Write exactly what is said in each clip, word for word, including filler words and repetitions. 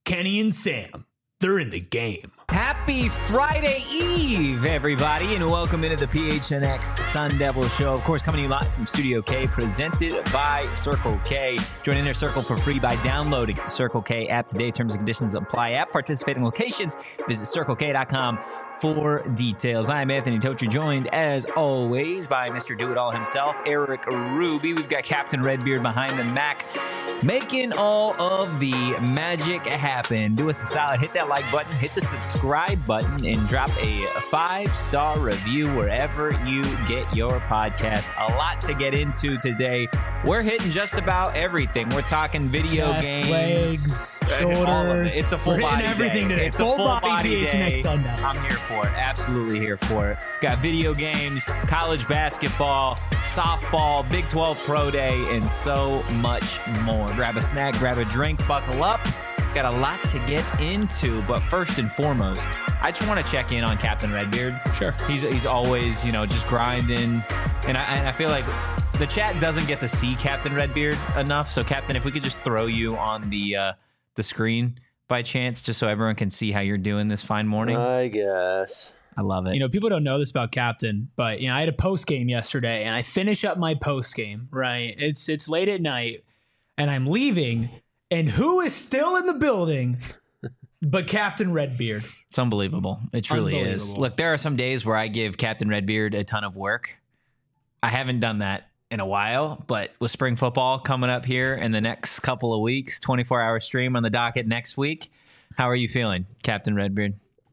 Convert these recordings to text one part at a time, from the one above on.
Kenny and Sam, they're in the game. Happy Friday Eve, everybody, and welcome into the P H N X Sun Devil Show. Of course, coming to you live from Studio K, presented by Circle K. Join Inner Circle for free by downloading the Circle K app today. Terms and conditions apply at participating locations. Visit circle k dot com for details. I'm Anthony Tocher, joined as always by Mister Do-It-All himself, Eric Ruby. We've got Captain Redbeard behind the Mac, making all of the magic happen. Do us a solid, hit that like button, hit the subscribe button, and drop a five-star review wherever you get your podcast. A lot to get into today. We're hitting just about everything. We're talking video Chest, games, legs, shoulders. all of it. It's a full We're body hitting everything day. today. It's Full a full body body P H N X day. Sun Devils. I'm here for it. Absolutely here for it. Got video games, college basketball, softball, Big twelve Pro Day, and so much more. Grab a snack, grab a drink, buckle up. Got a lot to get into, but first and foremost, I just want to check in on Captain Redbeard. Sure. He's he's always, you know, just grinding, and I, and I feel like the chat doesn't get to see Captain Redbeard enough. So, Captain, if we could just throw you on the uh, the screen by chance, just so everyone can see how you're doing this fine morning. I guess. I love it. You know, people don't know this about Captain, but you know, I had a post game yesterday, and I finish up my post game. Right, it's it's late at night, and I'm leaving, and who is still in the building? But Captain Redbeard. It's unbelievable. It truly is. Unbelievable. Look, there are some days where I give Captain Redbeard a ton of work. I haven't done that in a while, but with spring football coming up here in the next couple of weeks, twenty-four hour stream on the docket next week. How are you feeling, Captain Redbeard?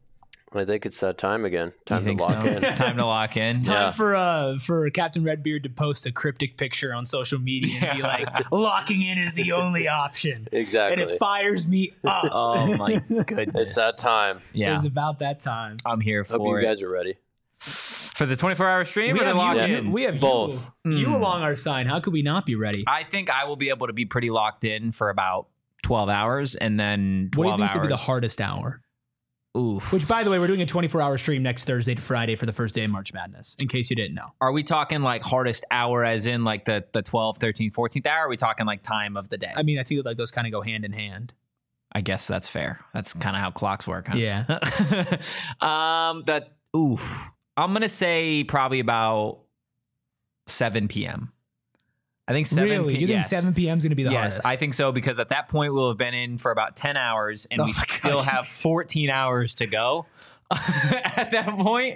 I think it's that time again. Time to think lock so? in. Time to lock in. Time Yeah. for uh for Captain Redbeard to post a cryptic picture on social media and be like, locking in is the only option. Exactly. And it fires me up. Oh my goodness. It's that time. Yeah, It's about that time. I'm here Hope for you it. guys are ready. For the twenty-four hour stream We or the have, lock you, in? we have Both. you, you Mm. along our side. How could we not be ready? I think I will be able to be pretty locked in for about twelve hours, and then What do you twelve think hours. would be the hardest hour? Oof. Which, by the way, we're doing a twenty-four hour stream next Thursday to Friday for the first day of March Madness, in case you didn't know. Are we talking like hardest hour as in like the, the twelfth, thirteenth, fourteenth hour? Or are we talking like time of the day? I mean, I think like those kind of go hand in hand. I guess that's fair. That's kind of how clocks work, huh? Yeah. um, that, oof. I'm going to say probably about seven p.m. I think seven Really? p.m. You think yes. seven p.m. is going to be the yes, hardest? I think so, because at that point we'll have been in for about ten hours and Oh we my still gosh. have fourteen hours to go at that point.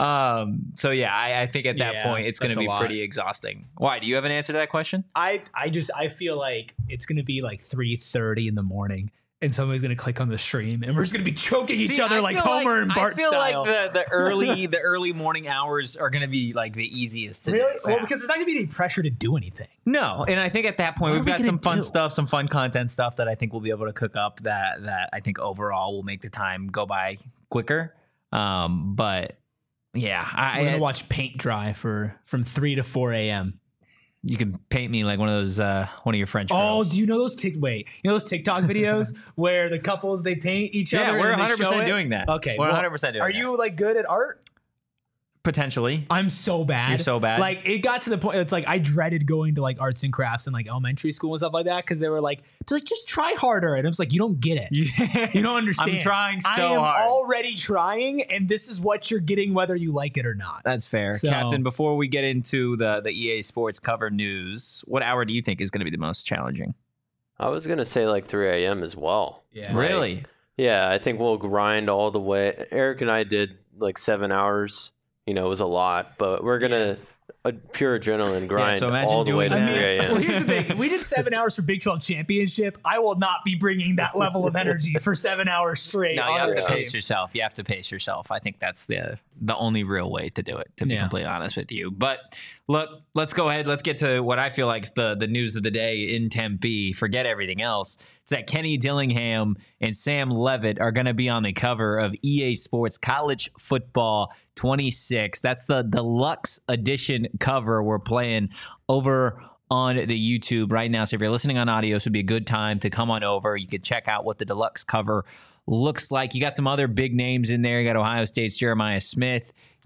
Um, so yeah, I, I think at that Yeah, point it's going that's to a be lot. pretty exhausting. Why? Do you have an answer to that question? I, I just, I feel like it's going to be like three thirty in the morning and somebody's going to click on the stream and we're just going to be choking each See, other I like feel Homer and Bart I feel style. like the, the early the early morning hours are going to be like the easiest to Really? do. Well, Yeah. because there's not going to be any pressure to do anything. No, and I think at that point What we've are we got gonna some fun do? stuff, some fun content stuff that I think we'll be able to cook up that that I think overall will make the time go by quicker. Um, but yeah, I, We're going I to watch paint dry for from three to four a.m. you can paint me like one of those uh one of your French Oh, girls. do you know those tick? Wait, you know those TikTok videos where the couples they paint each Yeah, other? we're and they one hundred percent show it? doing that. Okay, We're well, one hundred percent doing Are that. you like good at art? Potentially. I'm so bad. You're so bad? Like it got to the point. It's like I dreaded going to like arts and crafts in like elementary school and stuff like that because they were like, to like just try harder, and I was like, you don't get it. You don't understand. I'm trying so I am hard. already trying, and this is what you're getting, whether you like it or not. That's fair. So- Captain, before we get into the, the E A Sports cover news, what hour do you think is going to be the most challenging? I was going to say like three a.m. as well. Yeah. Like, Really? Yeah, I think we'll grind all the way. Eric and I did like seven hours. You know, it was a lot, but we're going to a pure adrenaline grind so imagine all the way to doing that. three I mean, a.m. well, here's the thing. If we did seven hours for Big twelve championship, I will not be bringing that level of energy for seven hours straight. No, you on have our to Yeah. team. pace yourself. You have to pace yourself. I think that's the the only real way to do it, to be Yeah. completely honest with you. But look, let's go ahead. Let's get to what I feel like is the, the news of the day in Tempe. Forget everything else. It's that Kenny Dillingham and Sam Levitt are going to be on the cover of E A Sports College Football twenty-six. That's the deluxe edition cover we're playing over on the YouTube right now. So if you're listening on audio, this would be a good time to come on over. You could check out what the deluxe cover looks like. You got some other big names in there. You got Ohio State's Jeremiah Smith.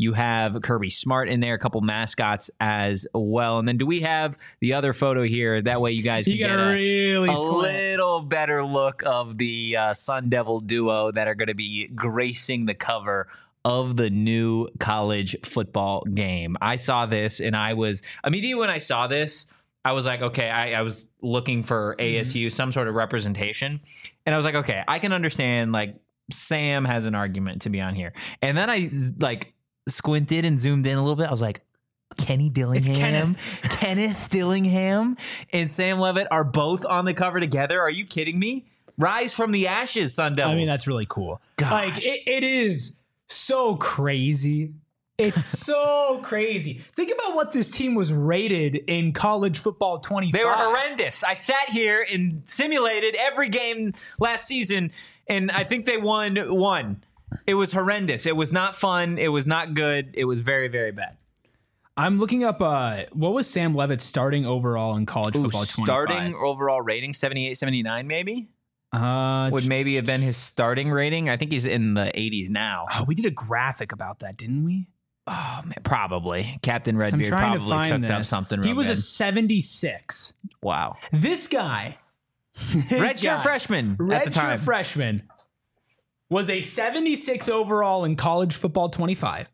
You have Kirby Smart in there, a couple mascots as well. And then do we have the other photo here? That way you guys can You get gotta a, really a squint. little better look of the uh, Sun Devil duo that are going to be gracing the cover of the new college football game. I saw this and I was immediately when I saw this, I was like, okay, I, I was looking for A S U, mm-hmm. some sort of representation. And I was like, okay, I can understand like Sam has an argument to be on here. And then I like squinted and zoomed in a little bit. I was like, Kenny Dillingham, Kenneth. Kenneth Dillingham and Sam Levitt are both on the cover together. Are you kidding me? Rise from the ashes, Sun Devils. I mean, that's really cool. Gosh. Like it, it is so crazy. It's so crazy. Think about what this team was rated in college football twenty-five. They were horrendous. I sat here and simulated every game last season, and I think they won one. It was horrendous. It was not fun. It was not good. It was very, very bad. I'm looking up uh, what was Sam Levitt's starting overall in college Ooh, football twenty-five. Starting overall rating, seventy-eight, seventy-nine maybe? Uh, Would maybe have been his starting rating. I think he's in the eighties now. Oh, we did a graphic about that, didn't we? Oh, man, probably. Captain I'm Redbeard trying probably to find cooked this. up something real He was good. a seventy-six. Wow. This guy, Redshirt freshman at the time. Redshirt freshman, was a seventy-six overall in college football twenty-five.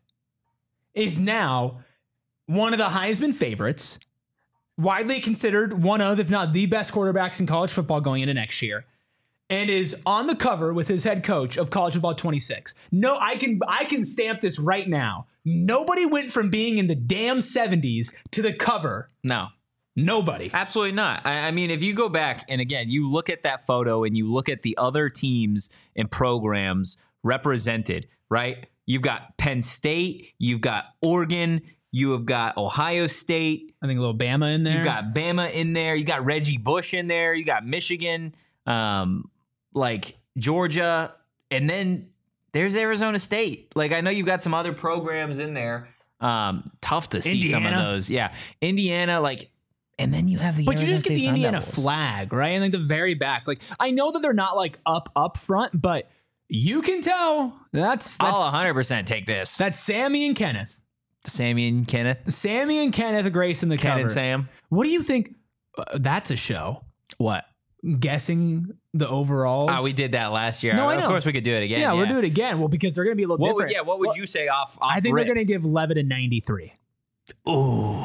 Is now one of the Heisman favorites, widely considered one of, if not the best quarterbacks in college football going into next year, and is on the cover with his head coach of college football twenty-six. No, I can I can stamp this right now. Nobody went from being in the damn seventies to the cover. No. Nobody. Absolutely not. I, I mean, if you go back and again, you look at that photo and you look at the other teams and programs represented, right? You've got Penn State, you've got Oregon, you have got Ohio State. I think a little Bama in there. You've got Bama in there. You got Reggie Bush in there. You got Michigan, um, like Georgia. And then there's Arizona State. Like, I know you've got some other programs in there. Um, tough to see Indiana. some of those. Yeah. Indiana, like, and then you have the But Arizona you just get State the Sun Indiana Devils. flag, right? And like the very back. Like, I know that they're not like up up front, but you can tell that's that's, I'll one hundred percent take this. that's Sammy and Kenneth. Sammy and Kenneth. Sammy and Kenneth Grace in the Ken cover. and Sam. What do you think? Uh, that's a show. What? Guessing the overalls. Oh, we did that last year. No, I Of know. course we could do it again. yeah, Yeah, we'll do it again. Well, because they're going to be a little What would, different. yeah, what would Well, you say off, off I think rip? they're going to give Levitt a ninety-three. Ooh.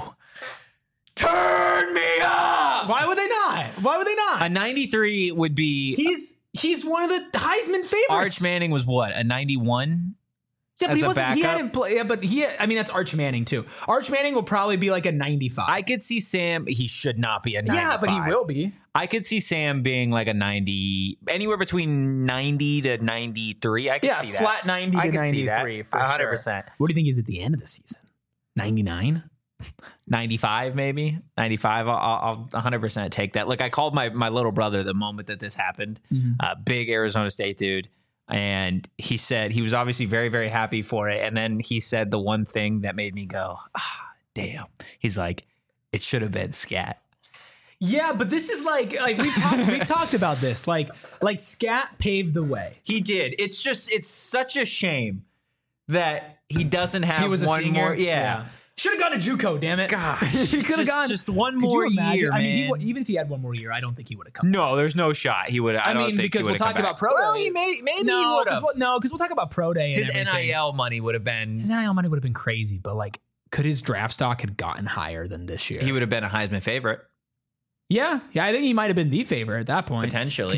Turn me up! Why would they not? Why would they not? A ninety-three would be... he's he's one of the Heisman favorites. Arch Manning was what? A ninety-one? Yeah, but as he a wasn't. He backup? hadn't play. Yeah, but he. I mean, that's Arch Manning too. Arch Manning will probably be like a ninety-five. I could see Sam... He should not be a ninety-five. yeah, but he will be. I could see Sam being like a ninety... Anywhere between ninety to ninety-three. I could Yeah, see that. flat ninety I to could see that. ninety-three for one hundred sure. percent. What do you think is at the end of the season? ninety-nine. ninety-five maybe ninety-five. I'll, I'll one hundred percent take that. Look, I called my my little brother the moment that this happened. Mm-hmm. Uh, big Arizona State dude, and he said he was obviously very very happy for it. And then he said the one thing that made me go, ah, damn. He's like, it should have been Scat. Yeah, but this is like like we've talked we've talked about this. Like like Scat paved the way. He did. It's just it's such a shame that he doesn't have He was a one senior. more. Yeah. Should have gone to JUCO, damn it. Gosh, he could have just- gone just one Could you more imagine? year, I mean, he, man. wa- even if he had one more year, I don't think he would have come. No, there's no shot. He would. I, I don't mean, think because he we'll would've come talk about back. pro Well, day. he may, maybe no, he would because have. we'll, no, because we'll talk about pro day. And His N everything. I L money would have been. His N I L money would have been crazy, but like, could his draft stock had gotten higher than this year? He would have been a Heisman favorite Yeah, yeah, I think he might have been the favorite at that point. potentially.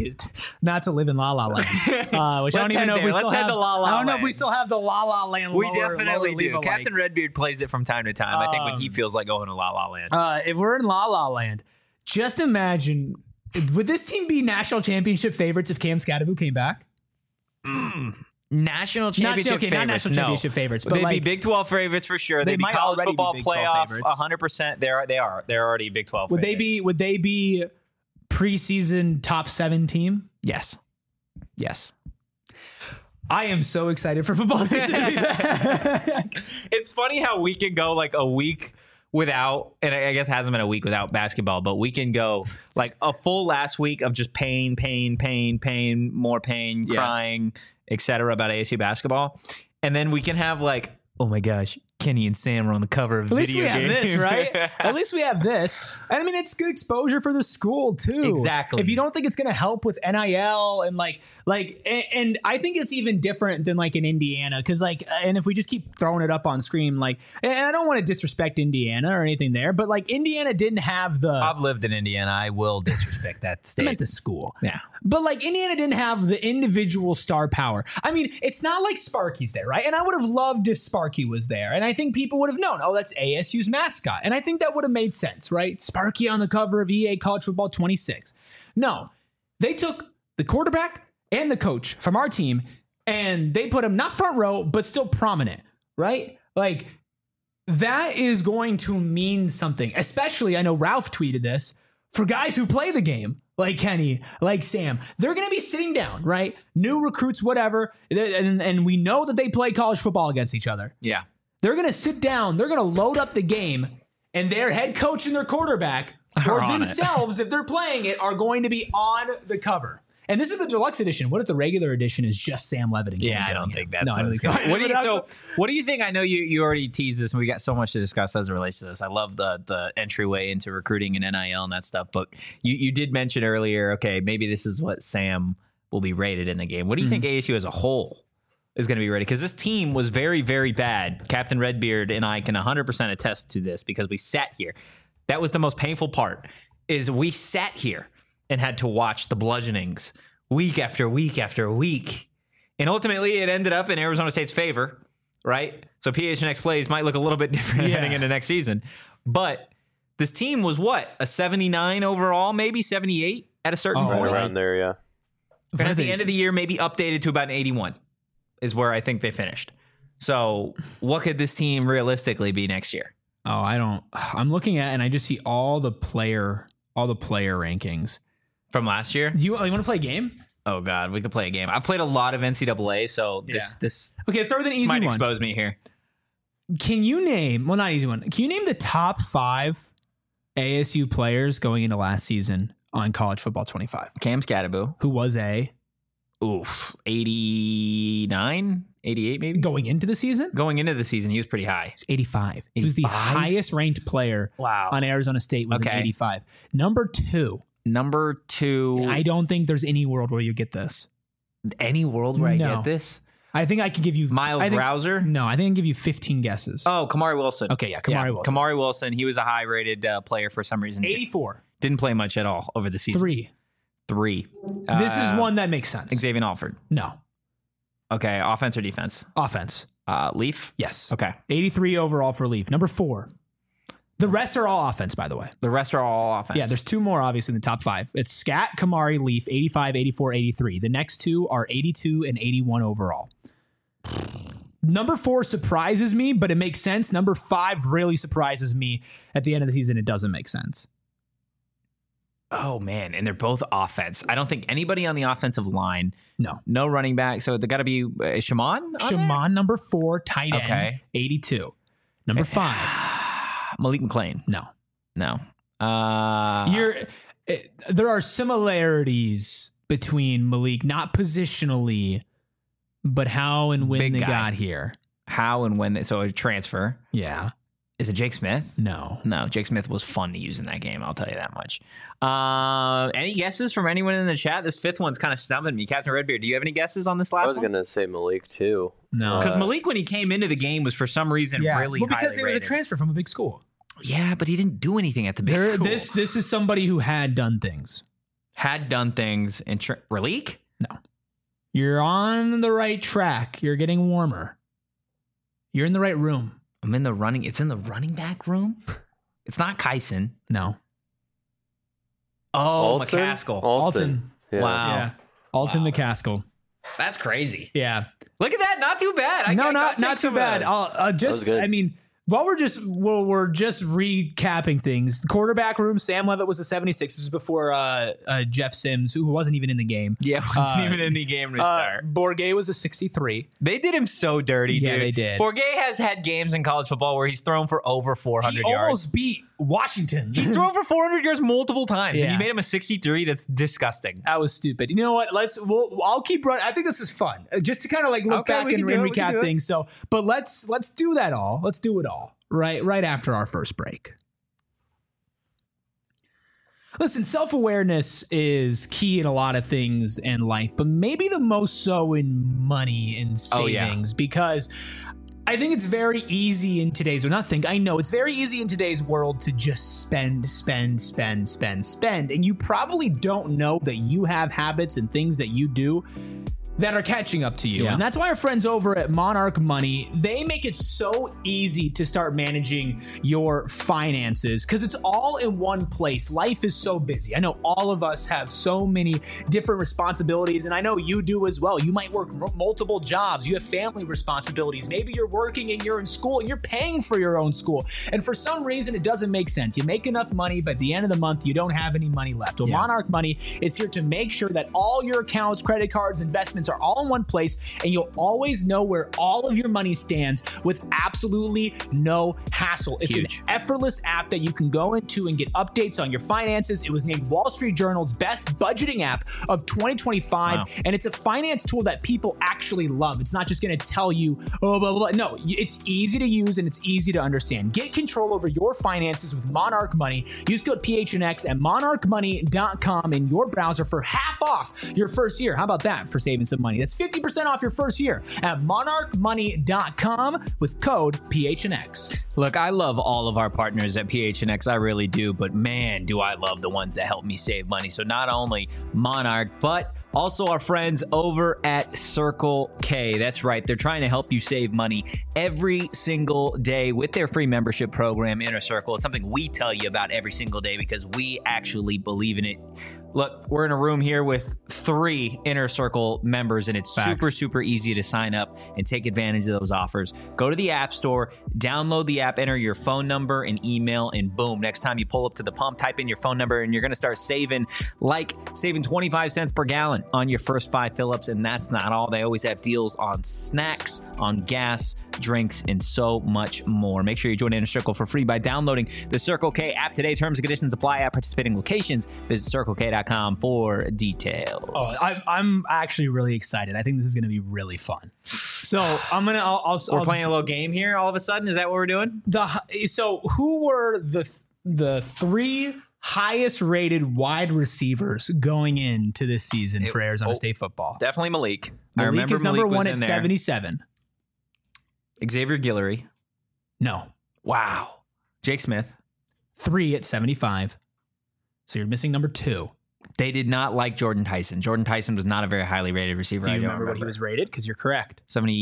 Not to live in La La Land, uh, which I don't Let's even head know if there. we Let's still head have. to La La I don't know if we Land. still have the La La Land. We lower- definitely lower do. leave-alike. Captain Redbeard plays it from time to time. I think when he Um, feels like going to La La Land. Uh, if we're in La La Land, just imagine, would this team be national championship favorites if Cam Scatterbu came back? National championship not, okay, favorites. not national no. championship favorites, but They'd like, be Big twelve favorites for sure. They They'd be might college already be football Big twelve playoff. favorites. one hundred percent. They're they are. They're already Big twelve. would they favorites. be? Would they be preseason top seven team? Yes. Yes. I am so excited for football season. to be back. It's funny how we can go like a week without, and I guess it hasn't been a week without basketball, but we can go like a full last week of just pain, pain, pain, pain, more pain, Yeah. crying, et cetera about A S U basketball. And then we can have like oh my gosh, Kenny and Sam are on the cover of At least video we have games. this, right? At least we have this. And I mean, it's good exposure for the school too. Exactly. If you don't think it's going to help with N I L and like, like, and, and I think it's even different than like in Indiana. Cause like, and if we just keep throwing it up on screen, like, and I don't want to disrespect Indiana or anything there, but like Indiana didn't have the, I've lived in Indiana. I will disrespect that I state. meant the school. Yeah. But like Indiana didn't have the individual star power. I mean, it's not like Sparky's there, right? And I would have loved if Sparky was there. And I think people would have known, oh, that's A S U's mascot. And I think that would have made sense, right? Sparky on the cover of E A College Football twenty-six. No, they took the quarterback and the coach from our team and they put him not front row, but still prominent, right? Like that is going to mean something, especially I know Ralph tweeted this for guys who play the game. Like Kenny, like Sam, they're going to be sitting down, right? New recruits, whatever. And, and we know that they play college football against each other. Yeah. They're going to sit down. They're going to load up the game. And their head coach and their quarterback, or on themselves, if they're playing it, are going to be on the cover. And this is the deluxe edition. What if the regular edition is just Sam Levitt and Kenny Yeah, I don't Dillingham? think that's No, I don't think so. What do you so? What do you think? I know you you already teased this, and we got so much to discuss as it relates to this. I love the the entryway into recruiting and N I L and that stuff. But you you did mention earlier, okay, maybe this is what Sam will be rated in the game. What do you mm-hmm. think A S U as a whole is going to be rated? Because this team was very very bad. Captain Redbeard and I can one hundred percent attest to this because we sat here. That was the most painful part. Is we sat here and had to watch the bludgeonings week after week after week. And ultimately, it ended up in Arizona State's favor, right? So P H N X plays might look a little bit different Yeah. heading into next season. But this team was what? A seventy-nine overall, maybe seventy-eight at a certain Oh, point? Right around there, yeah. And at the end of the year, maybe updated to about an eighty-one is where I think they finished. So what could this team realistically be next year? Oh, I don't. I'm looking at and I just see all the player, all the player rankings. From last year? Do you, you want to play a game? Oh, God, we could play a game. I've played a lot of N C double A, so this Yeah. this, Okay, let's start with an this easy might one. expose me here. Can you name, well, not easy one. Can you name the top five A S U players going into last season on College Football twenty-five? Cam Scatterbo. Who was a Oof. eighty-nine, eighty-eight maybe? going into the season? Going into the season, he was pretty high. He's eighty-five. He was the eighty-five? highest ranked player Wow. on Arizona State was an Okay. eighty-five. Number two, Number two, I don't think there's any world where you get this. any world where I No. get this? I think I can give you Miles I think, Rouser? No, I think I can give you fifteen guesses. Oh, Kamari Wilson. Okay, yeah, Kamari Wilson. Kamari Wilson. He was a high-rated uh, player for some reason. eighty-four. Didn't play much at all over the season. Three. Three. This Uh, is one that makes sense. Xavier Alford. No. Okay, offense or defense? Offense. Uh, Leaf? Yes. Okay. eighty-three overall for Leaf. Number four. The rest are all offense, by the way. The rest are all offense. Yeah, there's two more, obviously, in the top five. It's Scat, Kamari, Leaf, eighty-five, eighty-four, eighty-three. The next two are eighty-two and eighty-one overall. Number four surprises me, but it makes sense. Number five really surprises me. At the end of the season, it doesn't make sense. Oh, man. And they're both offense. I don't think anybody on the offensive line. No. No running back. So they got to be uh, Shaman? on there? Shaman, number four, tight end, Okay. eighty-two. Number five, Malik McClain. no. No. Uh, You're, it, there are similarities between Malik, not positionally, but how and when Big they guy. got here. how and when they, so a transfer. Yeah. Is it Jake Smith? No. No, Jake Smith was fun to use in that game. I'll tell you that much. Uh, any guesses from anyone in the chat? This fifth one's kind of stumping me. Captain Redbeard, do you have any guesses on this last I was one? going to say Malik, too. No. Because Uh, Malik, when he came into the game, was for some reason Yeah. really well, because highly it was a rated. transfer from a big school. Yeah, but he didn't do anything at the big There, school. this this is somebody who had done things. Had done things in tra- Raleek? You're on the right track. You're getting warmer. You're in the right room. I'm in the running. It's in the running back room. It's not Kyson. No. Oh, Alston? McCaskill. Alton. Yeah. Wow. Yeah. Alton Wow. McCaskill. That's crazy. Yeah. Look at that. Not too bad. I, no, I not gotta not take too some of bad. those. I'll, uh, just, was good. I mean, while we're just well, we're just recapping things. The quarterback room. Sam Levitt was a seventy-six. This is before uh, uh, Jeff Sims, who wasn't even in the game. Yeah, wasn't Uh, even in the game to Uh, start. Bourget was a sixty-three. They did him so dirty, Yeah, dude. they did. Bourget has had games in college football where he's thrown for over four He hundred almost yards. beat Washington. He's thrown for four hundred yards multiple times, Yeah. and you made him a sixty-three. That's disgusting. That was stupid. You know what? Let's. We'll, I'll keep running. I think this is fun, Uh, just to kind of like look Okay, back we and, can do and it, we can recap do it. things. So, but let's let's do that all. Let's do it all right right after our first break. Listen, self-awareness is key in a lot of things in life, but maybe the most so in money and Oh, yeah. savings, because I think it's very easy in today's, or not think, I know it's very easy in today's world to just spend, spend, spend, spend, spend. And you probably don't know that you have habits and things that you do that are catching up to you. Yeah. And that's why our friends over at Monarch Money, they make it so easy to start managing your finances because it's all in one place. Life is so busy. I know all of us have so many different responsibilities, and I know you do as well. You might work m- multiple jobs. You have family responsibilities. Maybe you're working and you're in school and you're paying for your own school. And for some reason, it doesn't make sense. You make enough money, but at the end of the month, you don't have any money left. Well, Yeah. Monarch Money is here to make sure that all your accounts, credit cards, investments are all in one place, and you'll always know where all of your money stands with absolutely no hassle. It's, huge. an effortless app that you can go into and get updates on your finances. It was named Wall Street Journal's best budgeting app of twenty twenty-five, Wow. and it's a finance tool that people actually love. It's not just going to tell you, oh, blah, blah, blah. No, it's easy to use and it's easy to understand. Get control over your finances with Monarch Money. Use code P H N X at monarch money dot com in your browser for half off your first year. How about that for saving some money? That's fifty percent off your first year at monarch money dot com with code P H N X. Look, I love all of our partners at P H N X. I really do. But man, do I love the ones that help me save money. So not only Monarch, but also our friends over at Circle K. That's right. They're trying to help you save money every single day with their free membership program, Inner Circle. It's something we tell you about every single day because we actually believe in it. Look, we're in a room here with three Inner Circle members, and it's Facts. super, super easy to sign up and take advantage of those offers. Go to the App Store, download the app, enter your phone number and email, and boom, next time you pull up to the pump, type in your phone number, and you're going to start saving, like saving twenty-five cents per gallon on your first five fill-ups. And that's not all. They always have deals on snacks, on gas, drinks, and so much more. Make sure you join Inner Circle for free by downloading the Circle K app today. Terms and conditions apply at participating locations. Visit circle k dot com for details. Oh, I, I'm actually really excited. I think this is going to be really fun. So I'm gonna. I'll. I'll We're I'll, playing a little game here all of a sudden. Is that what we're doing? the. So who were the the three highest rated wide receivers going into this season for Arizona oh, State football? Definitely Malik. I Malik remember is number Malik was one in at there. seventy-seven. Xavier Guillory. No, Wow. Jake Smith. three at seventy-five. So you're missing number two. They did not like Jordan Tyson. Jordan Tyson was not a very highly rated receiver. Do you I don't remember what he was rated? Because you're correct.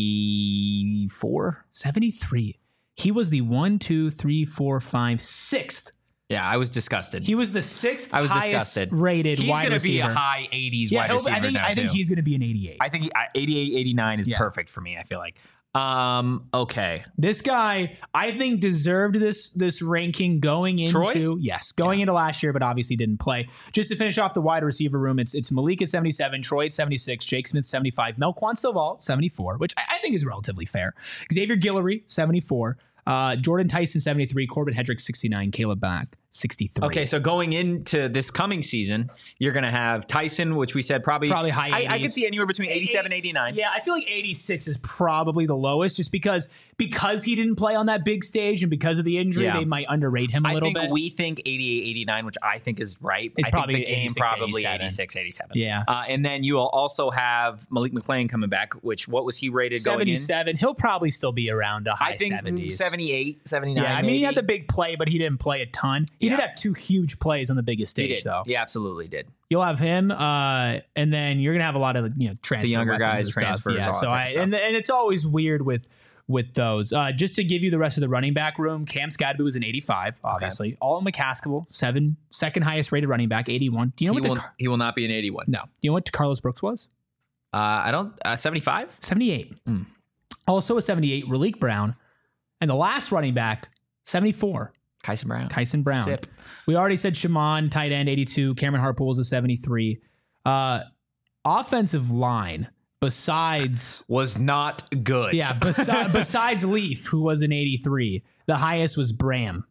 seventy-four? seventy-three. He was the one, two, three, four, five, sixth. Yeah, I was disgusted. He was the sixth I was highest disgusted. rated He's wide going to be receiver. a high eighties yeah, wide he'll- receiver I think now, I think too. he's going to be an eighty-eight. I think he, I- eighty-eight, eighty-nine is Yeah. perfect for me, I feel like. Um, okay. This guy, I think, deserved this this ranking going into Troy? yes, going into last year, but obviously didn't play. Just to finish off the wide receiver room, it's it's Malik at seventy-seven, Troy at seventy-six, Jake Smith seventy-five, Melquan Stovall seventy-four, which I, I think is relatively fair. Xavier Guillory seventy-four, uh, Jordan Tyson seventy-three, Corbin Hedrick sixty-nine, Caleb Back sixty-three. Okay, so going into this coming season, you're going to have Tyson, which we said probably Probably high I, I could eighties. see anywhere between eighty-seven, eighty-nine. Yeah, I feel like eighty-six is probably the lowest, just because because he didn't play on that big stage and because of the injury, Yeah. they might underrate him a I little think bit. we think eighty-eight, eighty-nine, which I think is right. It's I probably think the game eighty-six, probably eighty-seven. eighty-six, eighty-seven. Yeah. Uh, and then you will also have Malik McClain coming back, which what was he rated going in? seventy-seven. He'll probably still be around a high I think seventies. seventy-eight, seventy-nine. Yeah, I mean, maybe. he had the big play, but he didn't play a ton. He Yeah. did have two huge plays on the biggest He stage, did. though. He absolutely did. You'll have him, uh, and then you're gonna have a lot of you know transfer younger weapons guys, and stuff. transfers, Yeah, all so that type I of stuff. and and it's always weird with with those. Uh, just to give you the rest of the running back room, Cam Scadby was an eighty-five, obviously. Alton McCaskill, seven, second highest rated running back, eighty-one. Do you know He what? will, the, he will not be an eighty-one. no, do you know what Carlos Brooks was? Uh, I don't. Uh, seventy-five? seventy-eight. Mm. Also a seventy-eight, Raleek Brown, and the last running back, seventy-four. Kyson Brown. Kyson Brown. Sip. We already said Shaman, tight end, eighty-two. Cameron Harpool's a seventy-three. Uh, offensive line, besides, Was not good. yeah, besi- besides Leaf, who was an eighty-three, the highest was Bram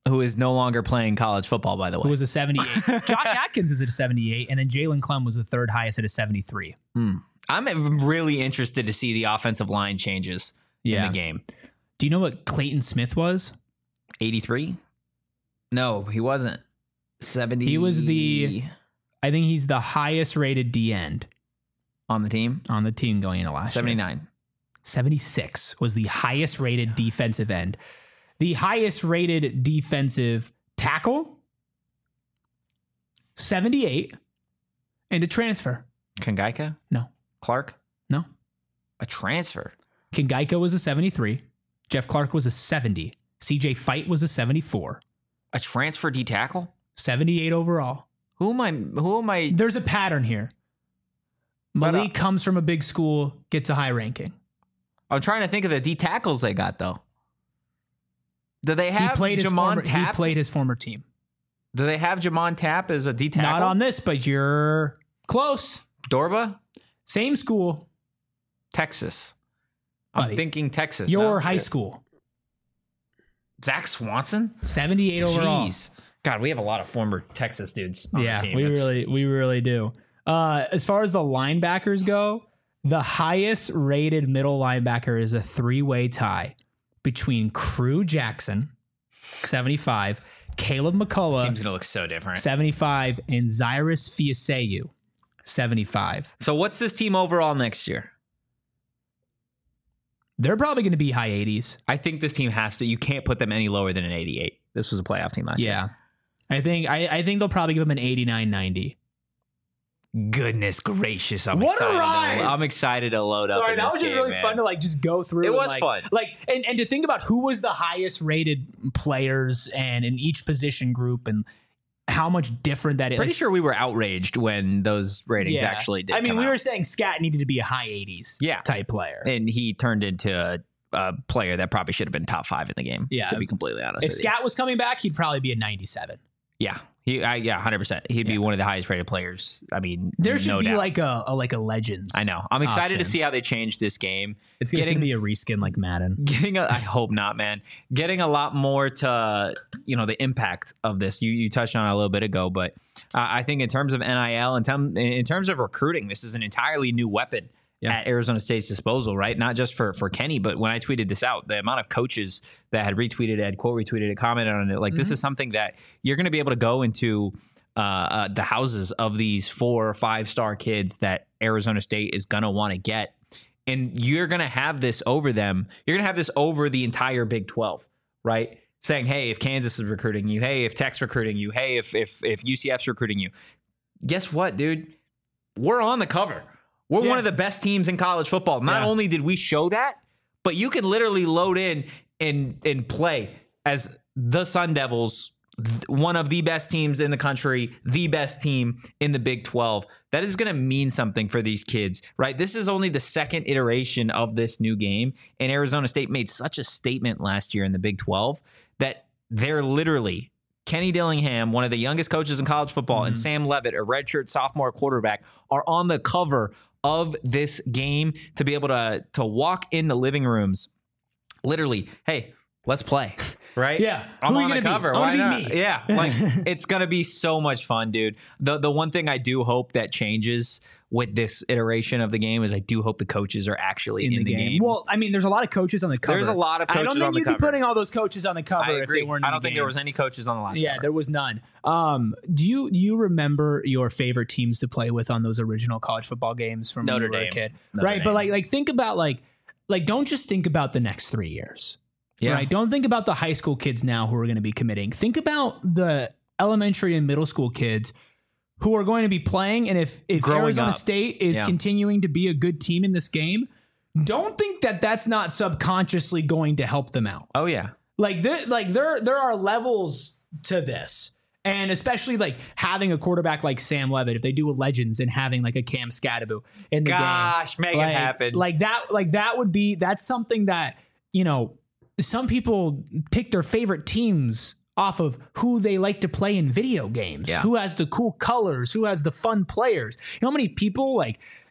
who is no longer playing college football, by the way. Who was a seventy-eight. Josh Atkins is at a seventy-eight, and then Jalen Clem was the third highest at a seventy-three. Mm. I'm really interested to see the offensive line changes Yeah. in the game. Do you know what Clayton Smith was? eighty-three? No, he wasn't. seventy. He was the, I think he's the highest rated D end on the team. on the team going into last seventy-nine. year. seventy-six was the highest rated defensive end. The highest rated defensive tackle, seventy-eight, and a transfer. Kangaika? No. Clark? No. A transfer. Kangaika was a seventy-three. Jeff Clark was a seventy. C J Fight was a seventy-four. A transfer D tackle? seventy-eight overall. Who am I? Who am I? There's a pattern here. But, Malik uh, comes from a big school, gets a high ranking. I'm trying to think of the D tackles they got though. Do they He have played his Jamon former, he Tapp? played his former team. Do they have Jamon Tapp as a D tackle? Not on this, but you're close. Dorba, Same school. Texas. I'm Buddy, thinking Texas. Your no? high school. Zach Swanson. seventy-eight overall. Jeez. God, we have a lot of former Texas dudes on Yeah, the team. we It's- really we really do. Uh, as far as the linebackers go, the highest rated middle linebacker is a three-way tie between Crew Jackson, seventy-five, Caleb McCullough, seems going to look so different. seventy-five, and Zyrus Fiaseyu, seventy-five. So what's this team overall next year? They're probably going to be high eighties. I think this team has to. You can't put them any lower than an eighty-eight. This was a playoff team last year. Yeah. I think I, I think they'll probably give them an eighty-nine ninety. Goodness gracious! I'm What a excited. rise! To, I'm excited to load up. Sorry, in that this was just game, really man. fun to like just go through. It and, was like, fun. Like and, and to think about who was the highest rated players and in each position group and how much different that is. Pretty Like, sure we were outraged when those ratings yeah. actually did. I mean, come we out. were saying Scat needed to be a high eighties Yeah. type player. and he turned into a, a player that probably should have been top five in the game. Yeah. to be completely honest. If with Scat was coming back, he'd probably be a ninety-seven. you. yeah, he, I, yeah, hundred percent. He'd be Yeah. one of the highest rated players. I mean, There should no be doubt. like a, a like a Legends. I know. I'm excited to option. see how they change this game. It's going to Getting- be a reskin like Madden. Getting, a, I hope not, man. Getting a lot more to, you know, the impact of this. You you touched on it a little bit ago, but uh, I think in terms of N I L and tem- in terms of recruiting, this is an entirely new weapon Yeah. at Arizona State's disposal, right? Not just for for Kenny, but when I tweeted this out, the amount of coaches that had retweeted it, had quote retweeted it, commented on it, like this is something that you're going to be able to go into uh, uh, the houses of these four or five star kids that Arizona State is going to want to get. And you're going to have this over them. You're going to have this over the entire Big twelve, right? Saying, hey, if Kansas is recruiting you, hey, if Tech's recruiting you, hey, if if if U C F's recruiting you, guess what, dude? We're on the cover. We're Yeah. one of the best teams in college football. Not Yeah. only did we show that, but you can literally load in and and play as the Sun Devils, th- one of the best teams in the country, the best team in the Big twelve. That is going to mean something for these kids, right? This is only the second iteration of this new game, and Arizona State made such a statement last year in the Big twelve that they're literally Kenny Dillingham, one of the youngest coaches in college football, and Sam Levitt, a redshirt sophomore quarterback, are on the cover of this game to be able to to walk in the living rooms. Literally, hey, let's play, right? Yeah. I'm Who are you on the gonna be? cover. I Why wanna be not? me. Yeah, like it's gonna be so much fun, dude. The the one thing I do hope that changes with this iteration of the game is I do hope the coaches are actually in, In, the, game. Well, I mean, there's a lot of coaches on the cover. There's a lot of I coaches don't think on the you'd cover. be putting all those coaches on the cover I if agree. they weren't. I in don't the think game. there was any coaches on the last Yeah, cover. there was none. Um, do you do you remember your favorite teams to play with on those original college football games from Notre when you were Dame. a kid? Notre right, Dame. but like like think about like like don't just think about the next three years. Yeah. Right. Don't think about the high school kids now who are going to be committing. Think about the elementary and middle school kids who are going to be playing. And if, if Growing Arizona up. State is Yeah. continuing to be a good team in this game, don't think that that's not subconsciously going to help them out. Oh yeah. Like there, like there, there are levels to this. And especially like having a quarterback like Sam Levitt, if they do a Legends and having like a Cam Scatterbo in the Gosh, game. make it like, happen. Like that, like that would be, that's something that, you know, some people pick their favorite teams off of who they like to play in video games, Yeah. who has the cool colors, who has the fun players. You know how many people like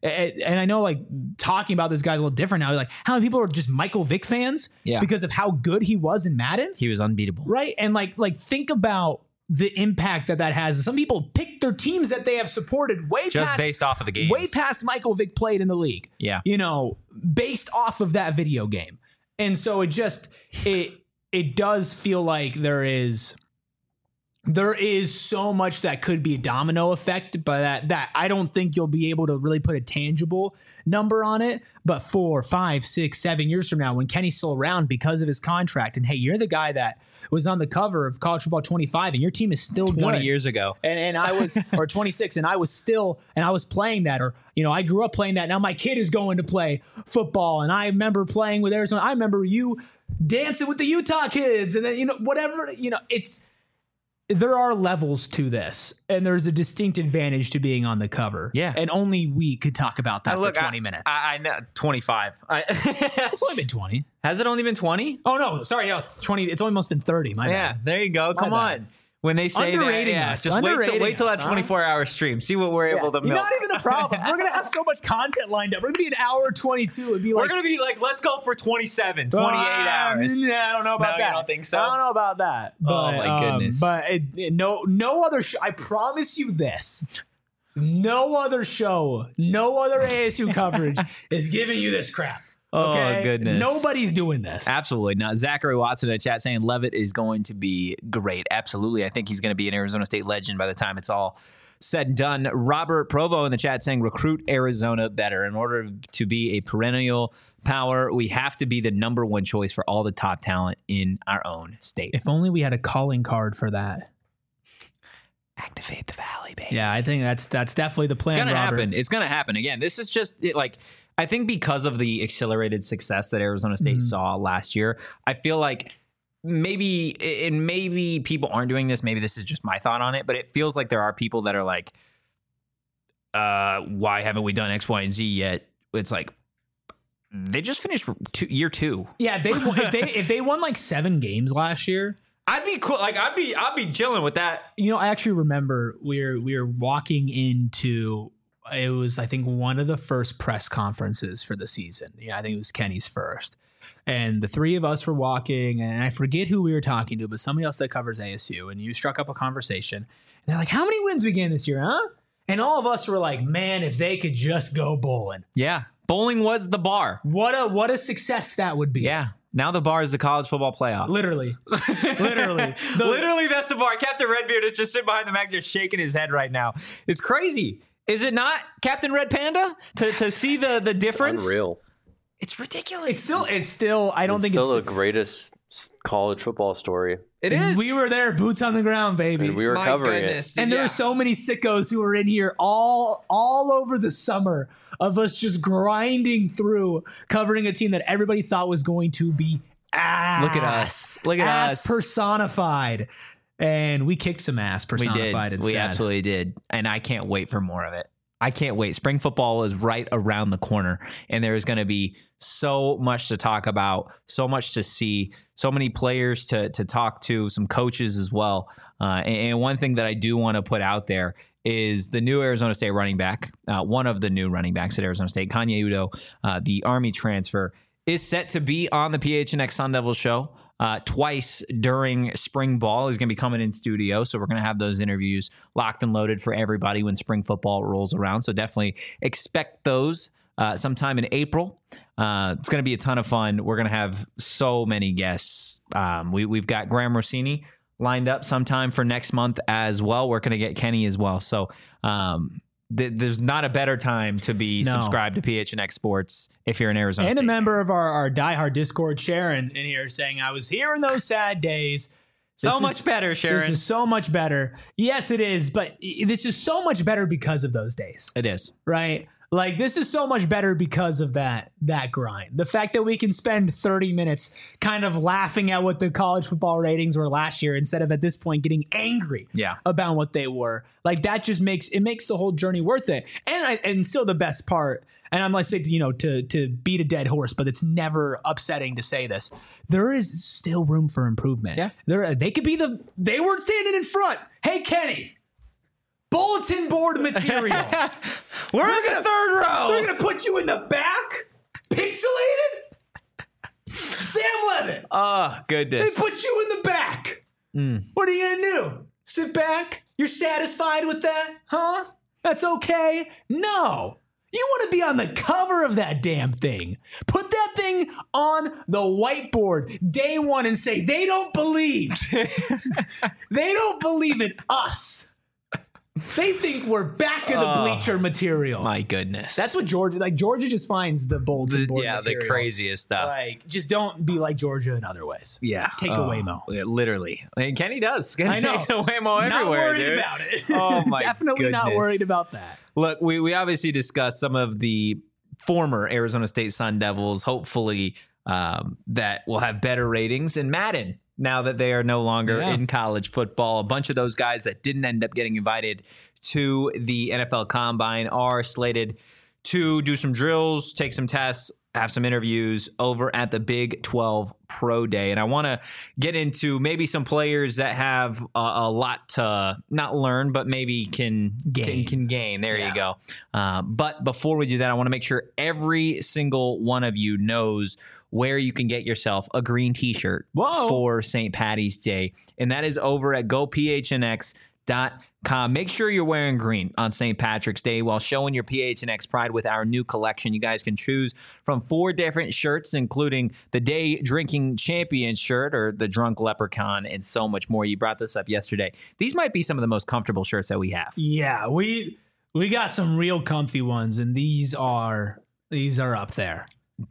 and I know like talking about this guy's a little different now. Like how many people are just Michael Vick fans Yeah. because of how good he was in Madden, He was unbeatable. right? And like like think about the impact that that has. Some people pick their teams that they have supported way Just past based off of the games. way past Michael Vick played in the league. Yeah. You know, based off of that video game. And so it just it it does feel like there is there is so much that could be a domino effect, but that that I don't think you'll be able to really put a tangible number on it. But four, five, six, seven years from now, when Kenny's still around because of his contract, and hey, you're the guy that was on the cover of College Football twenty-five, and your team is still twenty good. years ago. And and I was or twenty-six, and I was still and I was playing that, or you know, I grew up playing that. Now my kid is going to play football, and I remember playing with Arizona. I remember you dancing with the Utah kids, and then you know whatever you know. It's there are levels to this, and there's a distinct advantage to being on the cover. Yeah. And only we could talk about that Uh, look, for twenty I, minutes. I, I know twenty-five. I, it's only been twenty. Has it only been twenty? Oh no, sorry, yeah, twenty. It's almost been thirty. My Yeah, bad. there you go. Come bad. on. When they say that, Underrating yeah, us. just wait till, Underrating wait till us, that huh? twenty-four hour stream. See what we're able to You're milk. not even the problem. We're gonna have so much content lined up. We're gonna be an hour twenty-two. It'd be like We're going to be like, let's go for twenty-seven, twenty-eight Ah, hours. Yeah, I don't know about No, you that. don't think so? I don't know about that. But, Oh, my um, goodness. but it, it- no, no other. Sh- I promise you this: no other show, no other A S U coverage is giving you this crap. Oh, Okay? goodness. Nobody's doing this. Absolutely. Now, Zachary Watson in the chat saying Levitt is going to be great. Absolutely. I think he's going to be an Arizona State legend by the time it's all said and done. Robert Provo in the chat saying recruit Arizona better. In order to be a perennial power, we have to be the number one choice for all the top talent in our own state. If only we had a calling card for that. Activate the valley, baby. Yeah, I think that's that's definitely the plan. It's gonna Robert. happen. It's gonna happen again. This is just it, like I think because of the accelerated success that Arizona State Mhm. saw last year, I feel like maybe and maybe people aren't doing this. Maybe this is just my thought on it, but it feels like there are people that are like, uh, "Why haven't we done X, Y, and Z yet?" It's like they just finished two, year two. Yeah, they if they if they won like seven games last year. I'd be cool. Like I'd be I'd be chilling with that. You know, I actually remember we were we were walking into it was I think one of the first press conferences for the season. Yeah, I think it was Kenny's first. And the three of us were walking, and I forget who we were talking to, but somebody else that covers A S U. And you struck up a conversation. And they're like, "How many wins we getting this year, huh?" And all of us were like, "Man, if they could just go bowling, Yeah, bowling was the bar. what a what a success that would be." Yeah. Now the bar is the college football playoff. Literally, literally, The- Literally, that's the bar. Captain Redbeard is just sitting behind the mic, just shaking his head right now. It's crazy. Is it not, Captain Red Panda? To to see the the difference? Unreal. It's ridiculous. It's still, it's still. I don't It's think still it's. the greatest s- college football story. It is. We were there, boots on the ground, baby. And we were My covering goodness. And there Yeah. were so many sickos who were in here all all over the summer of us just grinding through covering a team that everybody thought was going to be ass. Look at us. Look at ass us. personified. And we kicked some ass We personified did. instead. We absolutely did. And I can't wait for more of it. I can't wait. Spring football is right around the corner, and there is going to be so much to talk about, so much to see, so many players to to talk to, some coaches as well. Uh, and, and one thing that I do want to put out there is the new Arizona State running back, uh, one of the new running backs at Arizona State, Kanye Udo, uh, the Army transfer, is set to be on the P H N X Sun Devil show. Uh, twice during spring ball. He's going to be coming in studio, so we're going to have those interviews locked and loaded for everybody when spring football rolls around. So definitely expect those uh, sometime in April. Uh, it's going to be a ton of fun. We're going to have so many guests. Um, we, we've got Graham Rossini lined up sometime for next month as well. We're going to get Kenny as well. So um, th- there's not a better time to be No. subscribed to P H N X Sports if you're in Arizona And State. a member of our, our diehard Discord, Sharon, in here saying, I was here in those sad days. so This much is- better, Sharon. This is so much better. Yes, it is, but i- this is so much better because of those days. It is. Right? Like this is so much better because of that that grind. The fact that we can spend thirty minutes kind of laughing at what the college football ratings were last year instead of at this point getting angry Yeah. about what they were. Like that just makes it makes the whole journey worth it. And I, and still the best part, and I'm like say you know to to beat a dead horse, but it's never upsetting to say this. There is still room for improvement. Yeah. There they could be the they weren't standing in front. Hey Kenny, bulletin board material. We're in the third row. They're going to put you in the back? Pixelated? Sam Levitt. Oh, goodness. They put you in the back. Mm. What are you going to do? Sit back? You're satisfied with that? Huh? That's okay? No. You want to be on the cover of that damn thing. Put that thing on the whiteboard day one and say, they don't believe. They don't believe in us. They think we're back of the Oh, bleacher material. My goodness. That's what Georgia, like Georgia just finds the bulletin the, board yeah, material. the craziest stuff. Like, just don't be like Georgia in other ways. Yeah. Take oh, away Mo. Yeah, literally. And Kenny does. Kenny I know. takes away Mo Not everywhere, worried dude. about it. Oh, my Definitely not goodness. worried about that. Look, we, we obviously discussed some of the former Arizona State Sun Devils, hopefully um, that will have better ratings in Madden now that they are no longer Yeah. in college football. A bunch of those guys that didn't end up getting invited to the N F L Combine are slated to do some drills, take some tests, have some interviews over at the Big twelve Pro Day. And I want to get into maybe some players that have a, a lot to not learn, but maybe can Gain. Can, can gain. There Yeah. you go. Uh, but before we do that, I want to make sure every single one of you knows where you can get yourself a green t-shirt Whoa. for Saint Patty's Day. And that is over at go p h n x dot com. Make sure you're wearing green on Saint Patrick's Day while showing your P H N X pride with our new collection. You guys can choose from four different shirts, including the Day Drinking Champion shirt or the Drunk Leprechaun and so much more. You brought this up yesterday. These might be some of the most comfortable shirts that we have. Yeah, we we got some real comfy ones, and these are these are up there.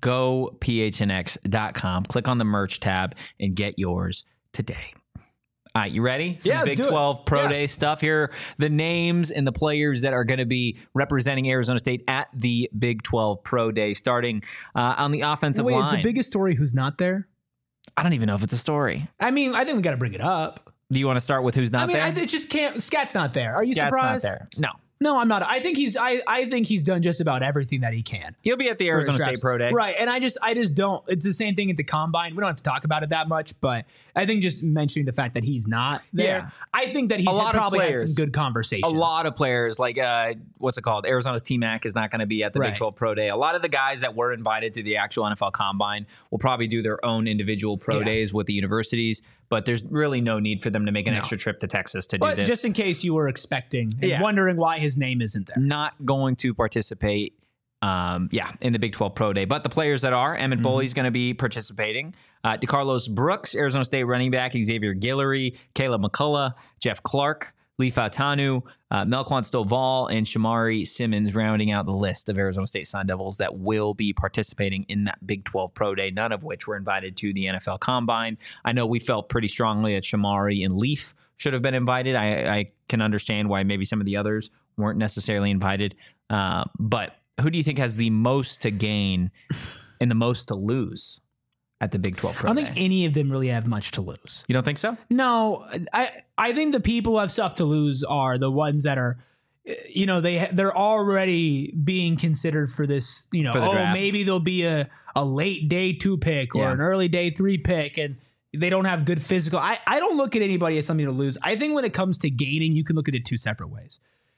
go p h n x dot com. Click on the merch tab and get yours today. All right, you ready? Some Yeah, let's Big do it. twelve Pro Yeah. Day stuff. Here are the names and the players that are going to be representing Arizona State at the Big twelve Pro Day, starting uh, on the offensive Wait, line. is the biggest story who's not there? I don't even know if it's a story. I mean, I think we got to bring it up. Do you want to start with who's not I mean, there? I it just can't. Scat's not there. Are you Scat's surprised? not there. No. No, I'm not. I think he's. I, I think he's done just about everything that he can. He'll be at the for Arizona Travis. State Pro Day. Right. And I just I just don't it's the same thing at the combine. We don't have to talk about it that much, but I think just mentioning the fact that he's not there, Yeah. I think that he's A lot of probably had players. some good conversations. A lot of players, like uh, what's it called? Arizona's T-Mac is not going to be at the Right. Big twelve Pro Day. A lot of the guys that were invited to the actual N F L Combine will probably do their own individual pro Yeah. days with the universities, but there's really no need for them to make an No. extra trip to Texas to But do this. just in case you were expecting and Yeah. wondering why his name isn't there. Not going to participate, um, yeah, in the Big twelve Pro Day. But the players that are, Emmett Mm-hmm. Bully's going to be participating. Uh, DeCarlos Brooks, Arizona State running back, Xavier Guillory, Caleb McCullough, Jeff Clark, Lee Fautanu, uh, Melquan Stovall, and Shamari Simmons rounding out the list of Arizona State Sun Devils that will be participating in that Big twelve Pro Day, none of which were invited to the N F L Combine. I know we felt pretty strongly that Shamari and Leaf should have been invited. I, I can understand why maybe some of the others weren't necessarily invited. Uh, but who do you think has the most to gain and the most to lose at the Big twelve Pro I don't Day? think any of them really have much to lose. You don't think so? No, I I think the people who have stuff to lose are the ones that are, you know, they they're already being considered for this. You know, For the oh, draft. maybe there'll be a a late day two pick or Yeah. an early day three pick, and they don't have good physical. I I don't look at anybody as something to lose. I think when it comes to gaining, you can look at it two separate ways.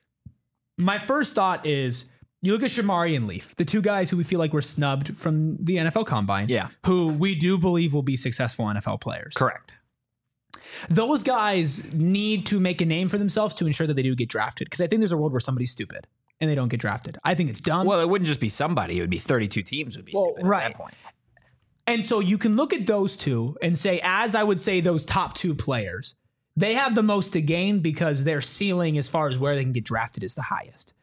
My first thought is you look at Shamari and Leaf, the two guys who we feel like were snubbed from the N F L Combine, Yeah. who we do believe will be successful N F L players. Correct. Those guys need to make a name for themselves to ensure that they do get drafted. Because I think there's a world where somebody's stupid and they don't get drafted. I think it's dumb. Well, it wouldn't just be somebody. It would be thirty-two teams would be Well, stupid right. at that point. And so you can look at those two and say, as I would say, those top two players, they have the most to gain because their ceiling as far as where they can get drafted is the highest.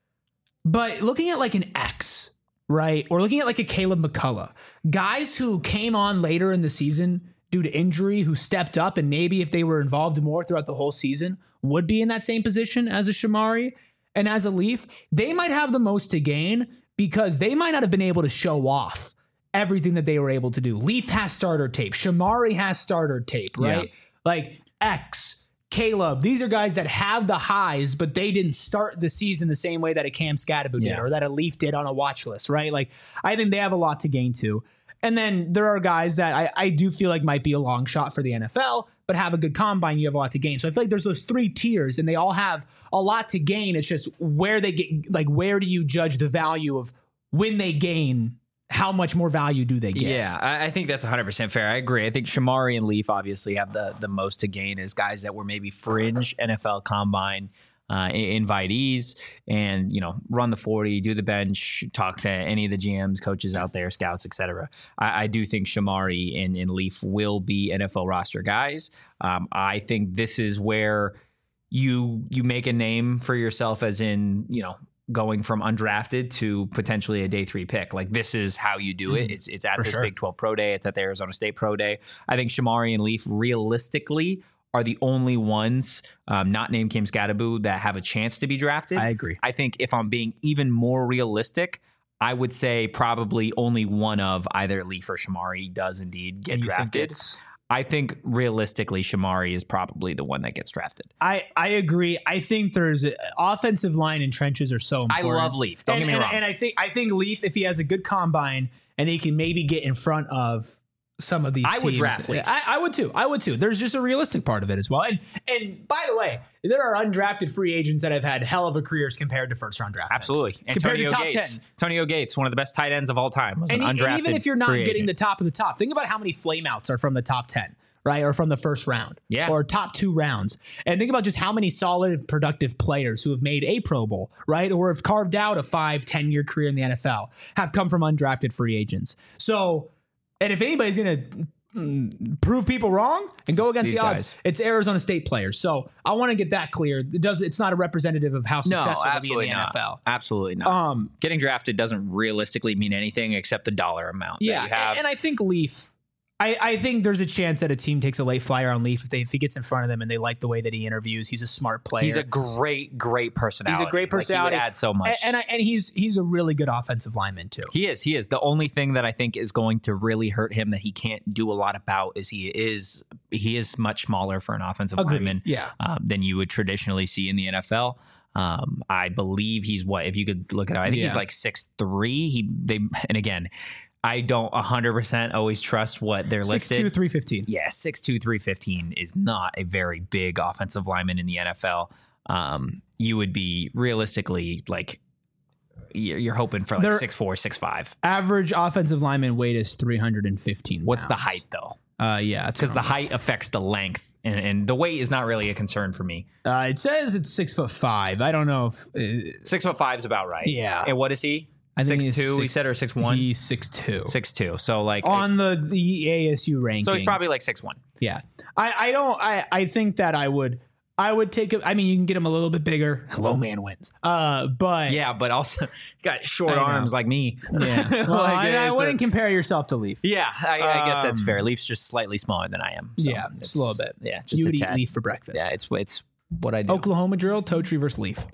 But looking at like an X, right? Or looking at like a Caleb McCullough, guys who came on later in the season due to injury, who stepped up and maybe if they were involved more throughout the whole season would be in that same position as a Shamari and as a Leaf, they might have the most to gain because they might not have been able to show off everything that they were able to do. Leaf has starter tape. Shamari has starter tape, right? Yeah. Like X, Caleb, these are guys that have the highs, but they didn't start the season the same way that a Cam Scatterbo did Yeah. or that a Leaf did on a watch list, right? Like, I think they have a lot to gain too. And then there are guys that I, I do feel like might be a long shot for the N F L, but have a good combine, you have a lot to gain. So I feel like there's those three tiers, and they all have a lot to gain. It's just where they get, like, where do you judge the value of when they gain? How much more value do they get? Yeah, I, I think that's one hundred percent fair. I agree. I think Shamari and Leaf obviously have the the most to gain as guys that were maybe fringe N F L combine uh, invitees, and you know, run the forty, do the bench, talk to any of the G Ms, coaches out there, scouts, et cetera. I, I do think Shamari and, and Leaf will be N F L roster guys. Um, I think this is where you you make a name for yourself, as in, you know, going from undrafted to potentially a day three pick. Like, this is how you do it. It's it's at For this sure. Big twelve Pro Day. It's at the Arizona State Pro Day. I think Shamari and Leaf realistically are the only ones, um, not named Kim Scadaboo, that have a chance to be drafted. I agree. I think if I'm being even more realistic, I would say probably only one of either Leaf or Shamari does indeed get And you think drafted. it's- I think realistically, Shamari is probably the one that gets drafted. I, I agree. I think there's a, offensive line and trenches are so I important. love Leaf. Don't and, get me and, wrong. And I think I think Leaf, if he has a good combine and he can maybe get in front of some of these I teams, would draft Leaf. I, I would too. I would too. There's just a realistic part of it as well. And and by the way, there are undrafted free agents that have had hell of a careers compared to first round draft picks. Absolutely. Compared to Antonio top Gates. ten. Antonio Gates, one of the best tight ends of all time, was And, an e- undrafted and even if you're not free getting agent. the top of the top, think about how many flameouts are from the top ten, right? Or from the first round. Yeah. Or top two rounds. And think about just how many solid, productive players who have made a Pro Bowl, right? Or have carved out a five, ten year career in the N F L have come from undrafted free agents. So, and if anybody's going to mm, prove people wrong and go against These the odds, guys. it's Arizona State players. So I want to get that clear. It does. It's not a representative of how no, successful they'll be in absolutely the not. N F L. Absolutely not. Um, Getting drafted doesn't realistically mean anything except the dollar amount Yeah, that you have. and I think Leaf. I, I think there's a chance that a team takes a late flyer on Leaf if, they, if he gets in front of them and they like the way that he interviews. He's a smart player. He's a great, great personality. He's a great personality. Like, he would add so much. and and, I, and he's he's a really good offensive lineman too. He is. He is. The only thing that I think is going to really hurt him that he can't do a lot about is he is he is much smaller for an offensive Agreed. lineman Yeah. um, than you would traditionally see in the N F L. Um, I believe he's what, if you could look it up, I think he's Yeah. like six three. He they and again, I don't one hundred percent always trust what they're six listed. two, three fifteen. Yeah, six two, three fifteen is not a very big offensive lineman in the N F L. Um, you would be realistically like you're, you're hoping for like They're- six four, six five. Average offensive lineman weight is three hundred fifteen. What's the pounds. height though? Uh, yeah, Because the height affects the length, and, and the weight is not really a concern for me. uh, it says it's six foot five. I don't know if uh, Six foot five is about right. Yeah. And what is he? I think Six he's two. He six- said or six one. he's six two. Six two. So like On the the A S U ranking. so he's probably like six one. Yeah, I, I don't. I, I think that I would. I would take it. I mean, you can get him a little bit bigger. Low man wins. Uh, but Yeah, but also got short I know. arms like me. yeah. Well, Like, I, I it's a- wouldn't compare yourself to Leaf. Yeah, I, I guess that's Um, fair. Leaf's just slightly smaller than I am. So yeah, just a little bit. Yeah, just You a would eat tad. Leaf for breakfast. Yeah, it's it's what I do. Oklahoma drill, toe tree versus Leaf.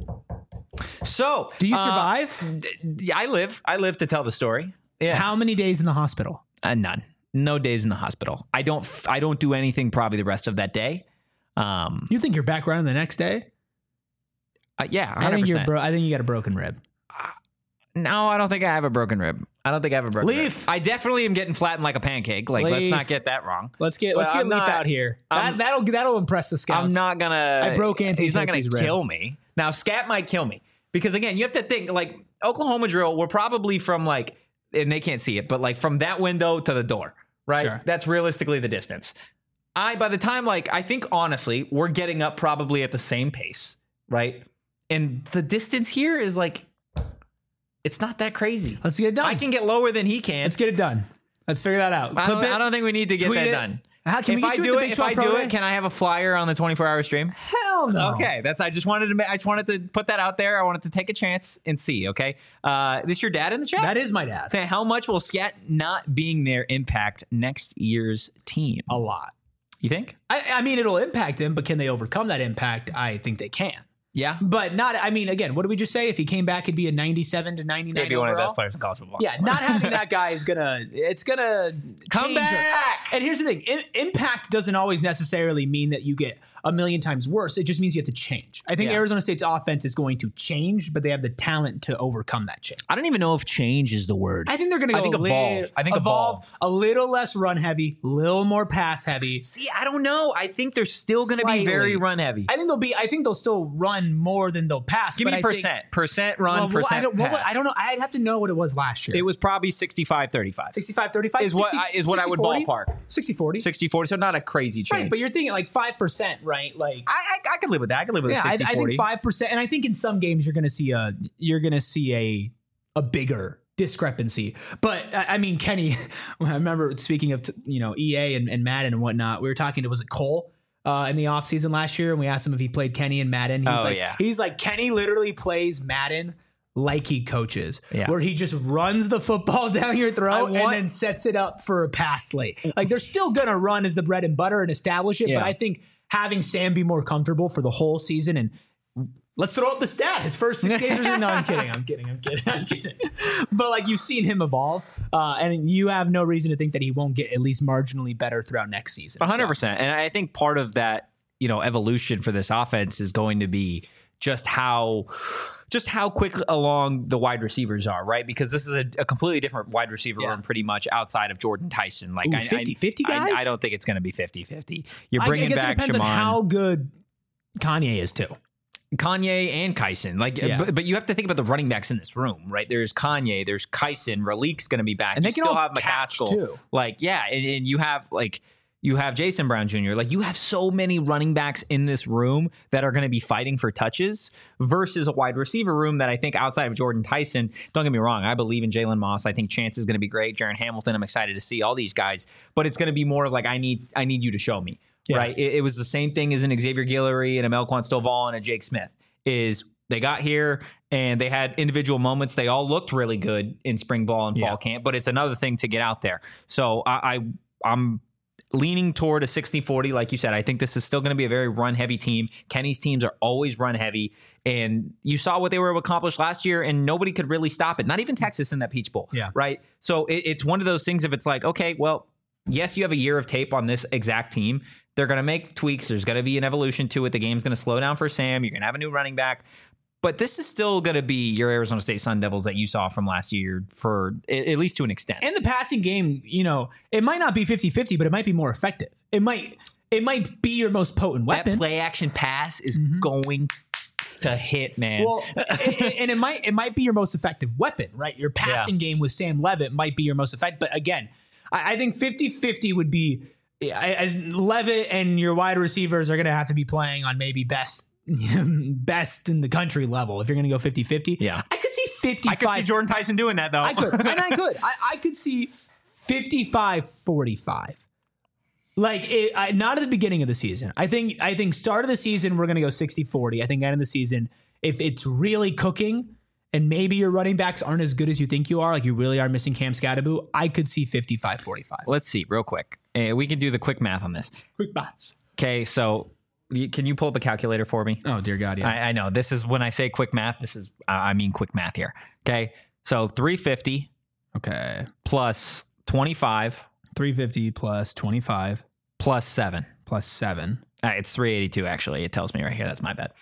So, Do you uh, survive? d- d- I live. I live to tell the story. Yeah, How many days in the hospital? uh, none. No days in the hospital. I don't. f- I don't do anything probably the rest of that day. Um. You think you're back running the next day? uh, yeah. I hundred think you're. percent. Bro- I think you got a broken rib. No, I don't think I have a broken rib. I don't think I have a broken Leaf. rib. I definitely am getting flattened like a pancake. Like, let's Leaf. not get that wrong. Let's get. But Let's get I'm Leaf not- out here. I'm- That, that'll that'll impress the scouts. I'm not gonna. I broke Anthony He's not gonna Tetsey's rib. kill me. Now, Scat might kill me because again, you have to think like Oklahoma drill. We're probably from like, and they can't see it, but like from that window to the door, right? Sure. That's realistically the distance. I by the time like I think honestly, we're getting up probably at the same pace, right? And the distance here is like, it's not that crazy. Let's get it done. I can get lower than he can. Let's get it done. Let's figure that out. I Clip don't, it. I don't think we need to get Tweet that it. done. How, can if we get I you at do the it, Big if I twelve Pro do Day? it, can I have a flyer on the twenty-four hour stream? Hell no. Okay, that's. I just wanted to. ma- I just wanted to put that out there. I wanted to take a chance and see. Okay, uh, this your dad in the chat? That is my dad. Saying how much will Scat not being there impact next year's team? A lot. You think? I, I mean, it'll impact them, but can they overcome that impact? I think they can. Yeah, But not, I mean, again, what did we just say? If he came back, he'd be a ninety-seven to ninety-nine maybe one of the overall? best players in college football. Yeah, not having that guy is gonna. It's gonna Come change your- back! And here's the thing: I- impact doesn't always necessarily mean that you get a million times worse. It just means you have to change. I think Yeah. Arizona State's offense is going to change, but they have the talent to overcome that change. I don't even know if change is the word. I think they're going to I go think a evolve. lit- I think evolve. a little less run heavy, a little more pass heavy. See, I don't know. I think they're still going to be Slightly. very run heavy. I think they'll be. I think they'll still run more than they'll pass. Give but me I percent. Think, percent run, well, well, percent I don't, pass. well, I don't know. I'd have to know what it was last year. It was probably sixty-five thirty-five. sixty-five thirty-five Is what I- is what I would ballpark. sixty forty. sixty forty, so not a crazy change. Right, but you're thinking like five percent, right? Like I, I I could live with that. I could live with yeah, a I, sixty I forty. think five percent, and I think in some games you're going to see a you're going to see a a bigger discrepancy. But I I mean, Kenny, I remember speaking of you know E A and, and Madden and whatnot. We were talking to was it Cole uh, in the offseason last year, and we asked him if he played Kenny and Madden. He's Oh, like, yeah. he's like Kenny literally plays Madden like he coaches, Yeah. where he just runs the football down your throat I and want- then sets it up for a pass late. Like they're still gonna run as the bread and butter and establish it, Yeah. but I think having Sam be more comfortable for the whole season and let's throw out the stat. His first six games. No, I'm kidding. I'm kidding. I'm kidding. I'm kidding. But like you've seen him evolve, uh, and you have no reason to think that he won't get at least marginally better throughout next season. one hundred So, percent. And I think part of that, you know, evolution for this offense is going to be just how just how quick along the wide receivers are, right? Because this is a, a completely different wide receiver Yeah. room pretty much outside of Jordan Tyson. Like Ooh, I- I- fifty-fifty I, guys? I don't think it's going to be fifty-fifty. You're I, I bringing guess back it depends Shaman, on how good Kanye is too. Kanye and Kyson. Like, Yeah. but, but you have to think about the running backs in this room, right? There's Kanye, there's Kyson, Ralik's going to be back. And they you can still all have catch, McCaskill. too. Like, yeah, and, and you have like you have Jason Brown Junior Like, you have so many running backs in this room that are going to be fighting for touches versus a wide receiver room that I think outside of Jordan Tyson. Don't get me wrong, I believe in Jalen Moss. I think Chance is going to be great. Jaron Hamilton, I'm excited to see all these guys, but it's going to be more of like I need I need you to show me. Yeah. Right? It, it was the same thing as an Xavier Guillory and a Melquan Stovall and a Jake Smith. Is they got here and they had individual moments. They all looked really good in spring ball and fall Yeah. camp, but it's another thing to get out there. So I, I I'm leaning toward a sixty forty. Like you said, I think this is still going to be a very run heavy team. Kenny's teams are always run heavy. And you saw what they were able to accomplish last year and nobody could really stop it. Not even Texas in that Peach Bowl. Yeah. Right. So it, it's one of those things if it's like, okay, well, yes, you have a year of tape on this exact team. They're going to make tweaks. There's going to be an evolution to it. The game's going to slow down for Sam. You're going to have a new running back. But this is still going to be your Arizona State Sun Devils that you saw from last year for at at least to an extent. And the passing game, you know, it might not be fifty-fifty, but it might be more effective. It might it might be your most potent that weapon. play action pass is going to hit, man. Well, and, and it might it might be your most effective weapon, right? Your passing game with Sam Levitt might be your most effective. But again, I, I think fifty-fifty would be I, I, Levitt and your wide receivers are going to have to be playing on maybe best best in the country level if you're going to go fifty-fifty. Yeah. I could see fifty-five. I could see Jordan Tyson doing that, though. I could. And I could. I, I could see fifty-five forty-five. Like it, I, not at the beginning of the season. I think I think start of the season we're going to go sixty forty. I think end of the season if it's really cooking and maybe your running backs aren't as good as you think you are, like you really are missing Cam Scatterbo, I could see fifty-five forty-five. Let's see real quick. Uh, we can do the quick math on this. Quick bots. Okay, so you, can you pull up a calculator for me? Oh dear God, yeah. I, I know this is when I say quick math. This is uh, I mean quick math here. Okay, so three fifty okay. plus twenty-five three fifty plus twenty-five plus seven. plus seven. Uh, it's three eighty-two actually. It tells me right here. That's my bad.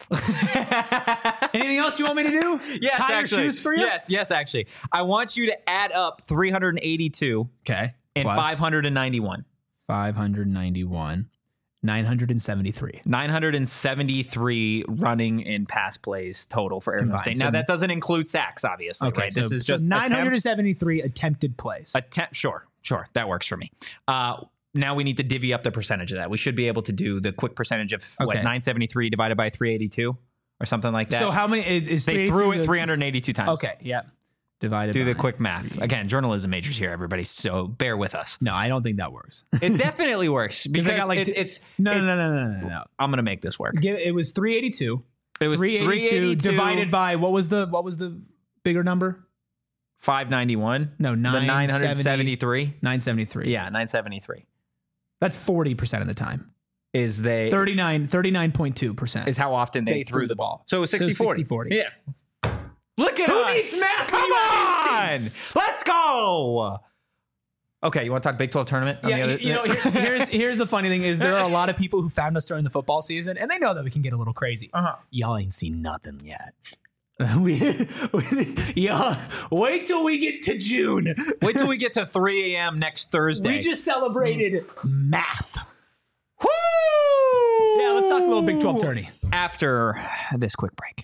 Anything else you want me to do? Yes, Tie actually. your shoes for you? Yes, yes, actually. I want you to add up three hundred eighty-two Okay. and Plus five hundred ninety-one. five hundred ninety-one. nine hundred seventy-three. nine hundred seventy-three running and pass plays total for Arizona Combined. State. So- Now, that doesn't include sacks, obviously, Okay, right? so, This is so just nine hundred attempts. seventy-three attempted plays. Attempt, sure, sure. That works for me. Uh, now we need to divvy up the percentage of that. We should be able to do the quick percentage of what Okay. nine seventy-three divided by three eighty-two or something like that. So how many is they threw it three hundred eighty-two times. Okay, yeah. Divided Do the by- quick math. Again, journalism majors here, everybody. So bear with us. No, I don't think that works. It definitely works because I got like it's, t- it's No, no, it's- no, no, no, no, no. I'm gonna make this work. Give, it was three eighty-two. It was three eighty-two divided by what was the what was the bigger number? five ninety-one. No, The nine nine hundred seventy-three. nine seventy-three. Yeah, nine seventy-three That's forty percent of the time. is they thirty-nine, thirty-nine point two percent. is how often they, They threw, threw the the ball. ball. So it was So sixty forty. sixty forty. Yeah. Look at Who us. needs math when Come you have on. instincts? Let's go. Okay, you want to talk Big twelve tournament? on Yeah, the other- you know, here, here's here's the funny thing is there are a lot of people who found us during the football season, and they know that we can get a little crazy. Uh-huh. Y'all ain't seen nothing yet. we, we y'all wait till we get to June. Wait till we get to three a.m. next Thursday. We just celebrated math. Woo! Yeah, let's talk a little Big twelve tourney. After this quick break.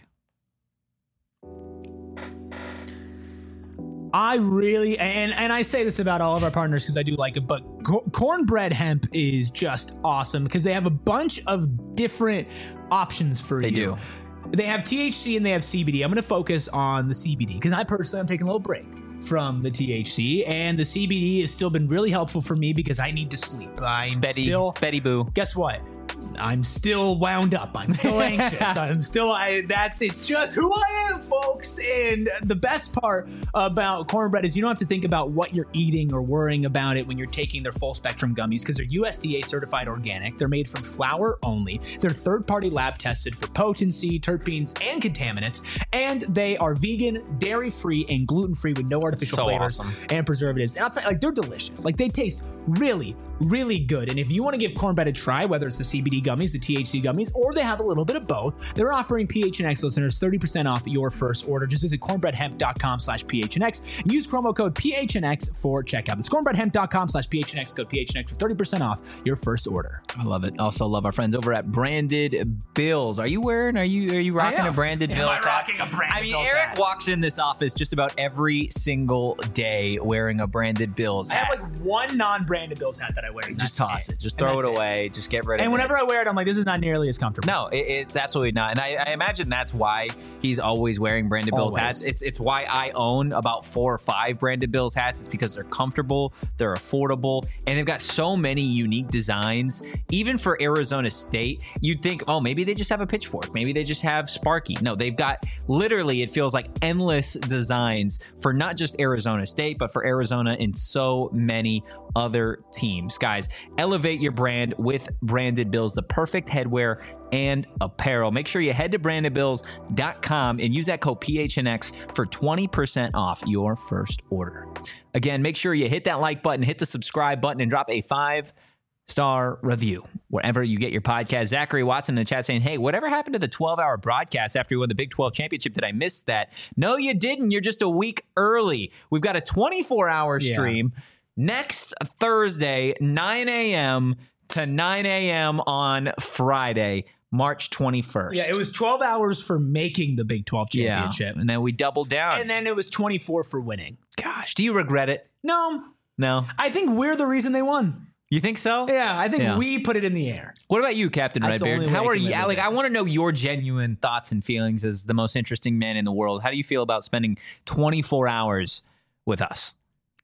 I really and and I say this about all of our partners because I do like it, but co- Cornbread Hemp is just awesome because they have a bunch of different options for They you. do. They have T H C and they have C B D. I'm going to focus on the C B D because I personally am taking a little break from the T H C, and the C B D has still been really helpful for me because I need to sleep. I'm Betty, still it's Betty Boo. Guess what? I'm still wound up. I'm still anxious. I'm still, I, that's, it's just who I am, folks. And the best part about Cornbread is you don't have to think about what you're eating or worrying about it when you're taking their full spectrum gummies because they're U S D A certified organic. They're made from flour only. They're third party lab tested for potency, terpenes, and contaminants. And they are vegan, dairy free, and gluten free with no artificial so flavors awesome. and preservatives. And I'll tell you, like, they're delicious. Like, they taste really, really good. And if you want to give Cornbread a try, whether it's the C B D gummies, the T H C gummies, or they have a little bit of both, they're offering P H N X listeners thirty percent off your first order. Just visit cornbreadhemp.com slash PHNX and use promo code P H N X for checkout. That's cornbreadhemp.com slash PHNX, code P H N X for thirty percent off your first order. I love it. Also love our friends over at Branded Bills. Are you wearing, are you, are you rocking am. a Branded Am Bills I rocking a Branded I mean, Bills Eric hat? walks in this office just about every single day wearing a Branded Bills I hat. have like one non-branded Bills hat that I wear. and just that's toss it. Just And throw it that's away. Just get rid of it. And whenever I wear it, I'm like, this is not nearly as comfortable. No, it, it's absolutely not. And I, I imagine that's why he's always wearing Branded Bills Always. hats. It's it's why I own about four or five Branded Bills hats. It's because they're comfortable, they're affordable, and they've got so many unique designs. Even for Arizona State, you'd think, oh, maybe they just have a pitchfork. Maybe they just have Sparky. No, they've got literally, it feels like endless designs for not just Arizona State, but for Arizona and so many other teams. Guys, elevate your brand with Branded Bills, the perfect headwear and apparel. Make sure you head to branded bills dot com and use that code P H N X for twenty percent off your first order. Again, make sure you hit that like button, hit the subscribe button, and drop a five star review wherever you get your podcast. Zachary Watson in the chat saying, hey, whatever happened to the twelve hour broadcast after you won the Big twelve championship? Did I miss that? No, you didn't. You're just a week early. We've got a twenty-four hour Yeah. stream next Thursday, nine a.m. to nine a.m. on Friday, March twenty-first. Yeah, it was twelve hours for making the Big twelve Yeah, championship. and then we doubled down. And then it was twenty-four for winning. Gosh, do you regret it? No, No? I think we're the reason they won. You think so? Yeah, I think Yeah. we put it in the air. What about you, Captain That's the Redbeard? only way How I are can you? live with Like, it. I want to know your genuine thoughts and feelings as the most interesting man in the world. How do you feel about spending twenty-four hours with us?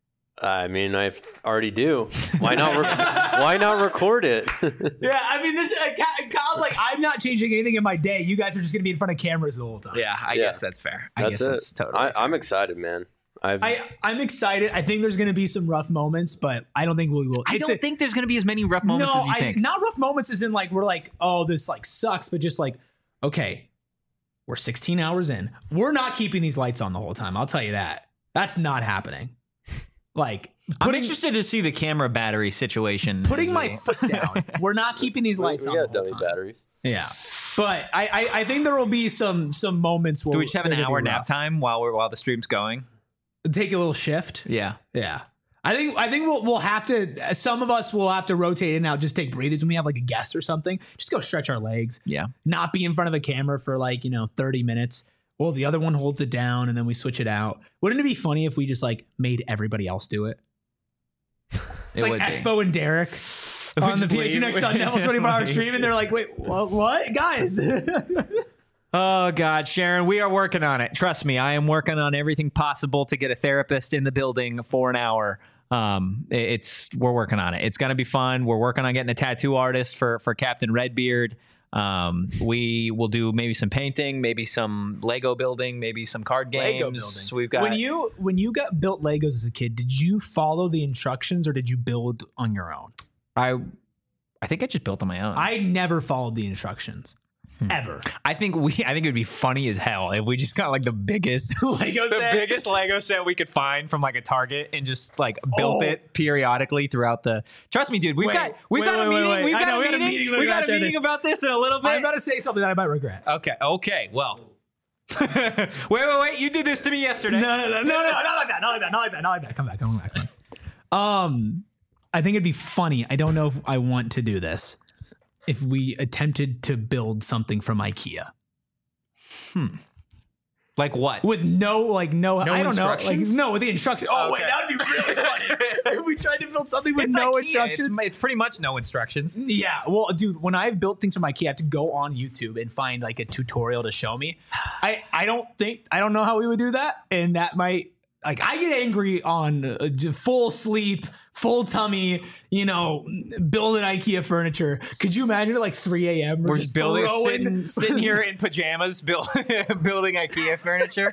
I mean, I already do. Why not? Re- why not record it? Yeah, I mean, this. Uh, Ky- Kyle's like, I'm not changing anything in my day. You guys are just going to be in front of cameras the whole time. Yeah, I Yeah. guess that's fair. I That's guess it. that's totally I, fair. I'm excited, man. I've, I, I'm excited. I think there's going to be some rough moments, but I don't think we will. I it's don't a- think there's going to be as many rough moments no, as you I, think. not rough moments as in like we're like, oh, this like sucks, but just like, okay, we're sixteen hours in. We're not keeping these lights on the whole time. I'll tell you that. That's not happening. Like I'm putting, interested to see the camera battery situation. putting as my we- foot down. We're not keeping these we, lights we on. got the whole dummy time. batteries. Yeah, but I, I I think there will be some some moments where Do we just have an they're gonna hour be nap rough. time while we're while the stream's going? Take a little shift. Yeah. Yeah. I think I think we'll we'll have to. Some of us will have to rotate in and out, just take breathers when we have like a guest or something. Just go stretch our legs. Yeah. Not be in front of the camera for like you know thirty minutes. Well, the other one holds it down and then we switch it out. Wouldn't it be funny if we just like made everybody else do it? It's It like would be. Espo and Derek on the just P H N X leave. on Neville's twenty-four hour stream, and they're like, "Wait, what, what? guys?" Oh, God, Sharon, we are working on it. Trust me, I am working on everything possible to get a therapist in the building for an hour. Um, it- it's we're working on it. It's gonna be fun. We're working on getting a tattoo artist for for Captain Redbeard. Um, we will do maybe some painting, maybe some Lego building, maybe some card games. Lego building. We've got when you when you got built Legos as a kid, did you follow the instructions or did you build on your own? I I think I just built on my own. I never followed the instructions. ever. I think we. I think it would be funny as hell if we just got like the biggest Lego the set. biggest Lego set we could find from like a Target and just like built Oh. it periodically throughout the. Trust me, dude. We've Wait, got we've wait, got a wait, wait, meeting. wait. We've I got know, a we got a meeting. meeting We got a after meeting this. about this in a little bit. I'm about to say something that I might regret. Okay. Okay. Well. wait, wait, wait! You did this to me yesterday. No, no, no, no, no, not like that, not like that, not like that, not like that. Come back, come back, come back. Um, I think it'd be funny. I don't know if I want to do this. If we attempted to build something from IKEA Like what? with no, like no, No I don't know, like instructions? no with the instructions. Oh wait, Okay. that would be really funny if we tried to build something with It's no IKEA. instructions. It's, it's pretty much no instructions. Yeah, well, dude, when I've built things from IKEA, I have to go on YouTube and find like a tutorial to show me. I I don't think I don't know how we would do that, and that might like I get angry on uh, j- full sleep, full tummy, you know, building IKEA furniture. Could you imagine at like three a.m. We're just building, throwing- sitting, sitting here in pajamas, build, building IKEA furniture.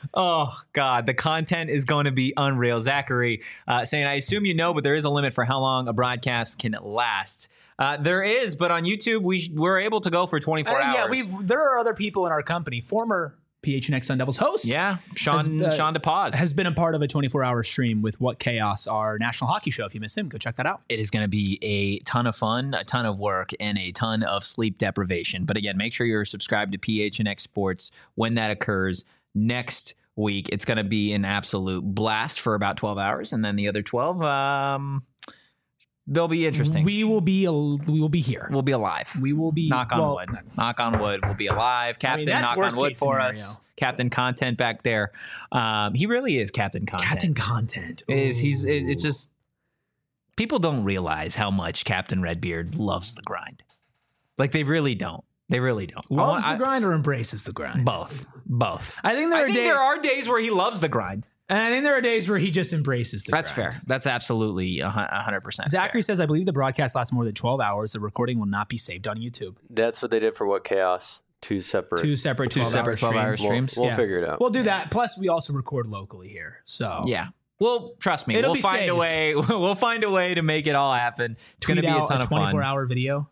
Oh God, the content is going to be unreal. Zachary uh, saying, "I assume you know, but there is a limit for how long a broadcast can last." Uh, there is, but on YouTube, we we're able to go for twenty-four Uh, hours. yeah, we've there are other people in our company, former P H N X Sun Devils host. yeah, Sean Has, uh, Sean DePaz Has been a part of a twenty-four hour stream with What Chaos, our national hockey show. If you miss him, go check that out. It is going to be a ton of fun, a ton of work, and a ton of sleep deprivation. But again, make sure you're subscribed to P H N X Sports when that occurs next week. It's going to be an absolute blast for about twelve hours, and then the other twelve, um, they'll be interesting. We will be a, we will be here. We'll be alive. We will be Knock on well, wood. Knock on wood. We'll be alive. Captain, that's knock on worst wood case for scenario. us. Captain Content back there. Um, he really is Captain Content. Captain Content. is he's it- Ooh. it's just people don't realize how much Captain Redbeard loves the grind. Like they really don't. They really don't. I loves want- the I- grind or embraces the grind. Both. Both. I think there I are think days, there are days where he loves the grind. and I think there are days where he just embraces the That's grind. fair. That's absolutely a hun- a hundred percent. Zachary fair. says, I believe the broadcast lasts more than twelve hours. The recording will not be saved on YouTube. That's what they did for What Chaos. Two separate. Two separate Two twelve separate hour twelve hour streams. We'll, streams. we'll Yeah. figure it out. We'll do that. Plus, we also record locally here. So Yeah. Well, trust me, It'll we'll be find saved. a way. We'll find a way to make it all happen. It's going tweet to be a out ton a of fun. twenty-four hour video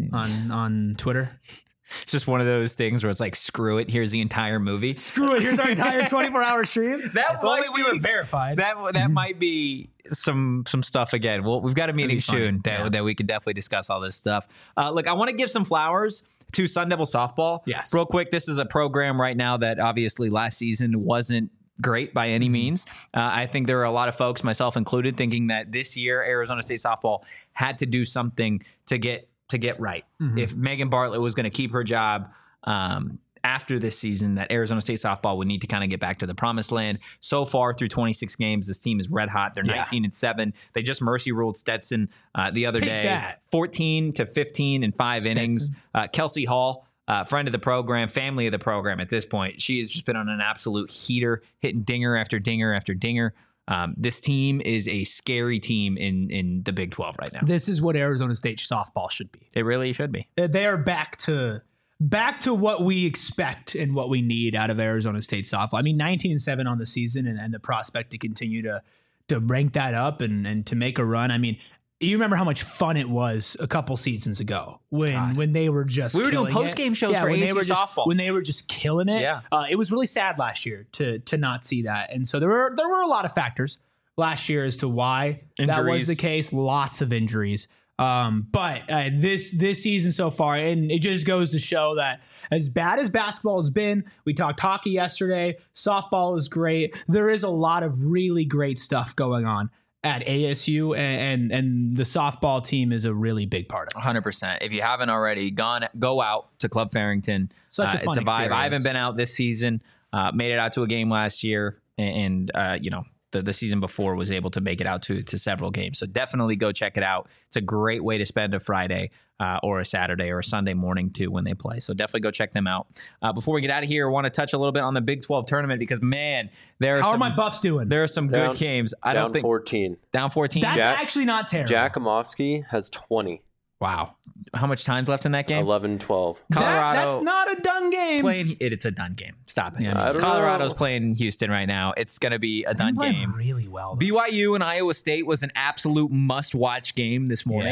on on Twitter. It's just one of those things where it's like, screw it. Here's the entire movie. Screw it. Here's our entire twenty-four hour stream. That If only might we were be- verified. That that might be some some stuff again. Well, we've got a meeting be funny. soon that, Yeah. that we can definitely discuss all this stuff. Uh, look, I want to give some flowers to Sun Devil softball. Yes. Real quick, this is a program right now that obviously last season wasn't great by any means. Uh, I think there are a lot of folks, myself included, thinking that this year Arizona State softball had to do something to get to get right. If Megan Bartlett was going to keep her job um, after this season, that Arizona State softball would need to kind of get back to the promised land. So far through twenty-six games, this team is red hot. They're Yeah. nineteen and seven. They just mercy ruled Stetson uh, the other Take day, that. fourteen to fifteen in five Stetson. innings. Uh, Kelsey Hall, uh, friend of the program, family of the program at this point. She has just been on an absolute heater, hitting dinger after dinger after dinger. Um, this team is a scary team in in the Big twelve right now. This is what Arizona State softball should be. It really should be. Uh, They are back to back to what we expect and what we need out of Arizona State softball. I mean, nineteen and seven on the season, and, and the prospect to continue to to rank that up and and to make a run. I mean, you remember how much fun it was a couple seasons ago when God. when they were just We were doing killing it. post-game shows for when A S U they were just, softball. when they were just killing it. Yeah. uh, it was really sad last year to to not see that, and so there were there were a lot of factors last year as to why that was Injuries. the case. Lots of injuries. Um, but uh, this this season so far, and it just goes to show that as bad as basketball has been, we talked hockey yesterday. Softball is great. There is a lot of really great stuff going on at A S U, and and, and the softball team is a really big part of it. one hundred percent. If you haven't already, gone go out to Club Farrington. Such a Uh, fun it's a vibe. I haven't experience. been out this season. Uh, made it out to a game last year, and uh, you know the the season before was able to make it out to to several games. So definitely go check it out. It's a great way to spend a Friday uh, or a Saturday or a Sunday morning too when they play. So definitely go check them out. Uh, before we get out of here, I want to touch a little bit on the Big twelve tournament because man, there are How some, are my Buffs doing? there are some Down- good games. I Down don't think fourteen. down fourteen. That's Jack- actually not terrible. Jakumovsky has twenty. Wow, how much time's left in that game? eleven twelve. That- Colorado that's not a done game. playing it, it's a done game. Stop it. Yeah, I don't Colorado's know. playing Houston right now. It's going to be a They're done playing game. really well. though. B Y U and Iowa State was an absolute must-watch game this morning. Yeah.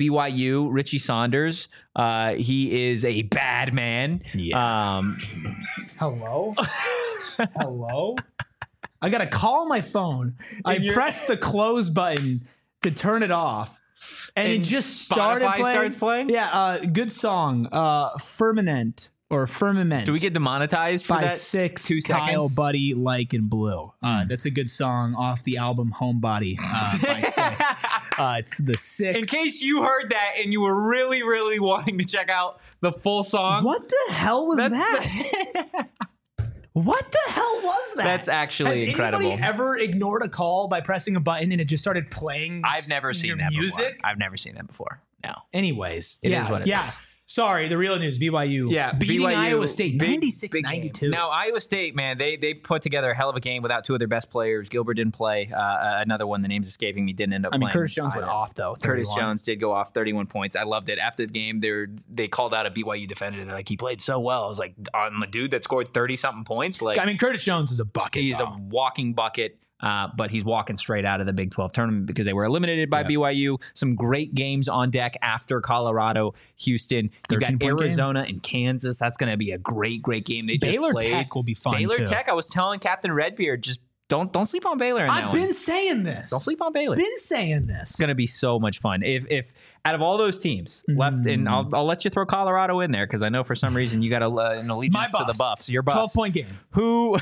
B Y U, Richie Saunders. Uh, he is a bad man. Yeah. Um, Hello? Hello? I got to call my phone. I And you're- pressed the close button to turn it off. And, And it just started Spotify playing. starts playing? Yeah, uh, good song. Uh, Firmament or Firmament. do we get demonetized for by that? six two Kyle seconds? Buddy Like and Blue. Uh, that's a good song off the album Homebody uh, by Six. Uh, it's the six. In case you heard that and you were really, really wanting to check out the full song, What the hell was That's that? What the hell was that? That's actually Has incredible. anybody ever ignored a call by pressing a button and it just started playing? I've never seen your that music. before. I've never seen that before. No. Anyways, It yeah, is what it yeah. is. Sorry, the real news. B Y U. Yeah, beating B Y U, Iowa State big- ninety-six big game. ninety-two. Now Iowa State, man, they they put together a hell of a game without two of their best players. Gilbert didn't play. Uh, another one, the name's escaping me, didn't end up I mean, playing. Curtis Jones went either. off though. Curtis thirty-one. Jones did go off thirty-one points. I loved it. After the game, they they called out a B Y U defender. They're like, he played so well. I was like, on the dude that scored thirty something points. Like, I mean, Curtis Jones is a bucket. he's though. a walking bucket. Uh, but he's walking straight out of the Big twelve tournament because they were eliminated by Yeah. B Y U. Some great games on deck after Colorado, Houston. You've got thirteen-point game. Arizona and Kansas. That's going to be a great, great game. They just Baylor played. Tech will be fun Baylor too. Tech. I was telling Captain Redbeard, just don't don't sleep on Baylor. In that I've one. been saying this. Don't sleep on Baylor. Been saying this. It's going to be so much fun. If if out of all those teams left, and I'll, I'll let you throw Colorado in there because I know for some reason you got a, uh, an allegiance to the Buffs. Your Buffs. twelve point game. Who?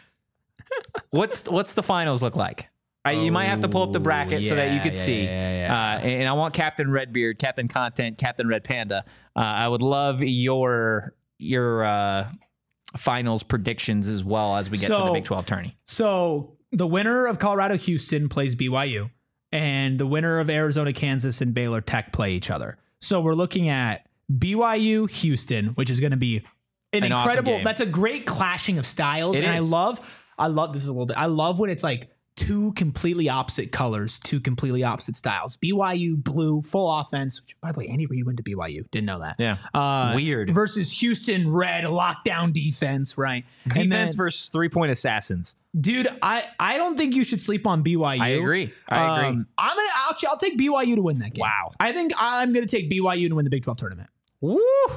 what's what's the finals look like? I, you might have to pull up the bracket so that you yeah, could yeah, see. yeah, yeah, Uh, and, and I want Captain Redbeard, Captain Content, Captain Red Panda. Uh, I would love your your uh, finals predictions as well as we get to the So- Big twelve tourney. So the winner of Colorado Houston plays B Y U, and the winner of Arizona Kansas and Baylor Tech play each other. So we're looking at B Y U Houston, which is going to be an, An awesome incredible. game. That's a great clashing of styles, It and is. I love. I love this is a little bit. I love when it's like two completely opposite colors, two completely opposite styles. B Y U blue, full offense. Which, by the way, Andy Reid went to B Y U. Didn't know that. Yeah. Uh, Weird. Versus Houston red, lockdown defense. Right. And Defense then- versus three point assassins. Dude, I, I don't think you should sleep on B Y U. I agree. I agree. Um, I'm gonna I'll, I'll take B Y U to win that game. Wow. I think I'm gonna take B Y U to win the Big twelve tournament. Woo!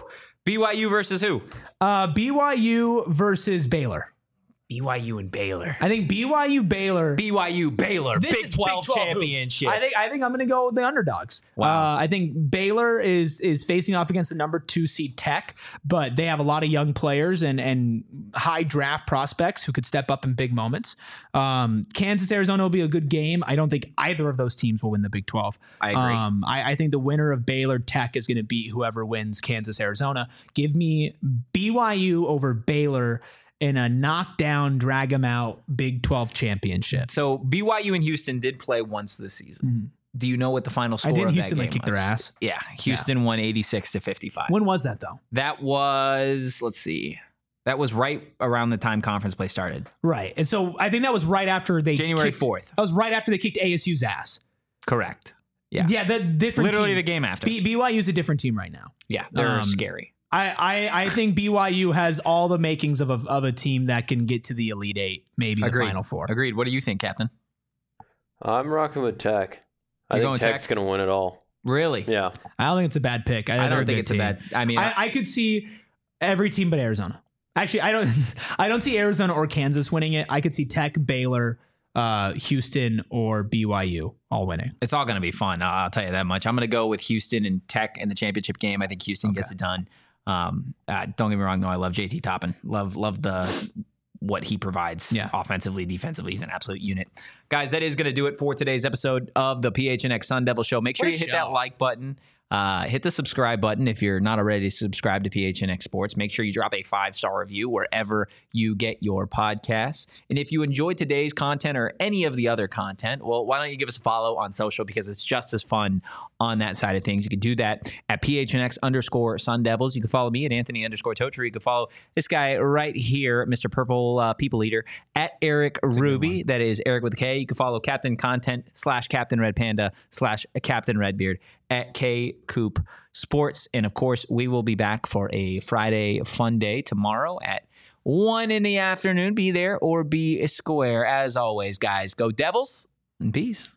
B Y U versus who? Uh, B Y U versus Baylor. B Y U and Baylor. I think B Y U Baylor. B Y U Baylor This Big is twelve, Big twelve championship. hoops. I think I think I'm gonna go with the underdogs. Wow. Uh, I think Baylor is is facing off against the number two seed Tech, but they have a lot of young players and and high draft prospects who could step up in big moments. Um, Kansas Arizona will be a good game. I don't think either of those teams will win the Big twelve. I agree. Um, I, I think the winner of Baylor Tech is going to beat whoever wins Kansas Arizona. Give me B Y U over Baylor in a knockdown, drag them out Big twelve championship. So B Y U and Houston did play once this season. Do you know what the final score I didn't of Houston that like game kick their was? ass. Yeah, Houston won eighty-six to fifty-five. When was that though? That was, let's see. That was right around the time conference play started. Right. And so I think that was right after they January kicked- fourth. That was right after they kicked A S U's ass. Correct. Yeah. Yeah, the different Literally team. the game after. B- BYU's a different team right now. yeah, they're um, scary. I, I, I think B Y U has all the makings of a, of a team that can get to the Elite Eight, maybe the Agreed. Final Four. Agreed. What do you think, Captain? I'm rocking with Tech. I You're think going Tech's Tech? going to win it all. Really? Yeah. I don't think it's a bad pick. I, I they're don't think good it's a team. bad. I mean, I, I could see every team but Arizona. Actually, I don't. I don't see Arizona or Kansas winning it. I could see Tech, Baylor, uh, Houston, or B Y U all winning. it's all going to be fun. I'll, I'll tell you that much. I'm going to go with Houston and Tech in the championship game. I think Houston gets it done. Um, uh, don't get me wrong, though. I love J T Toppin. Love, love the what he provides Yeah. offensively, defensively. He's an absolute unit. Guys, that is going to do it for today's episode of the P H N X Sun Devil Show. Make sure What a you hit show. that like button. Uh, hit the subscribe button if you're not already subscribed to P H N X Sports. Make sure you drop a five-star review wherever you get your podcasts. And if you enjoyed today's content or any of the other content, well, why don't you give us a follow on social because it's just as fun on that side of things. You can do that at P H N X underscore Sun Devils. You can follow me at Anthony underscore Totri. You can follow this guy right here, Mister Purple uh, People Eater, at Eric Ruby. That is Eric with a K. You can follow Captain Content slash Captain Red Panda slash Captain Redbeard at K Coop Sports. And of course, we will be back for a Friday fun day tomorrow at one in the afternoon. Be there or be square. As always, guys, go Devils and peace.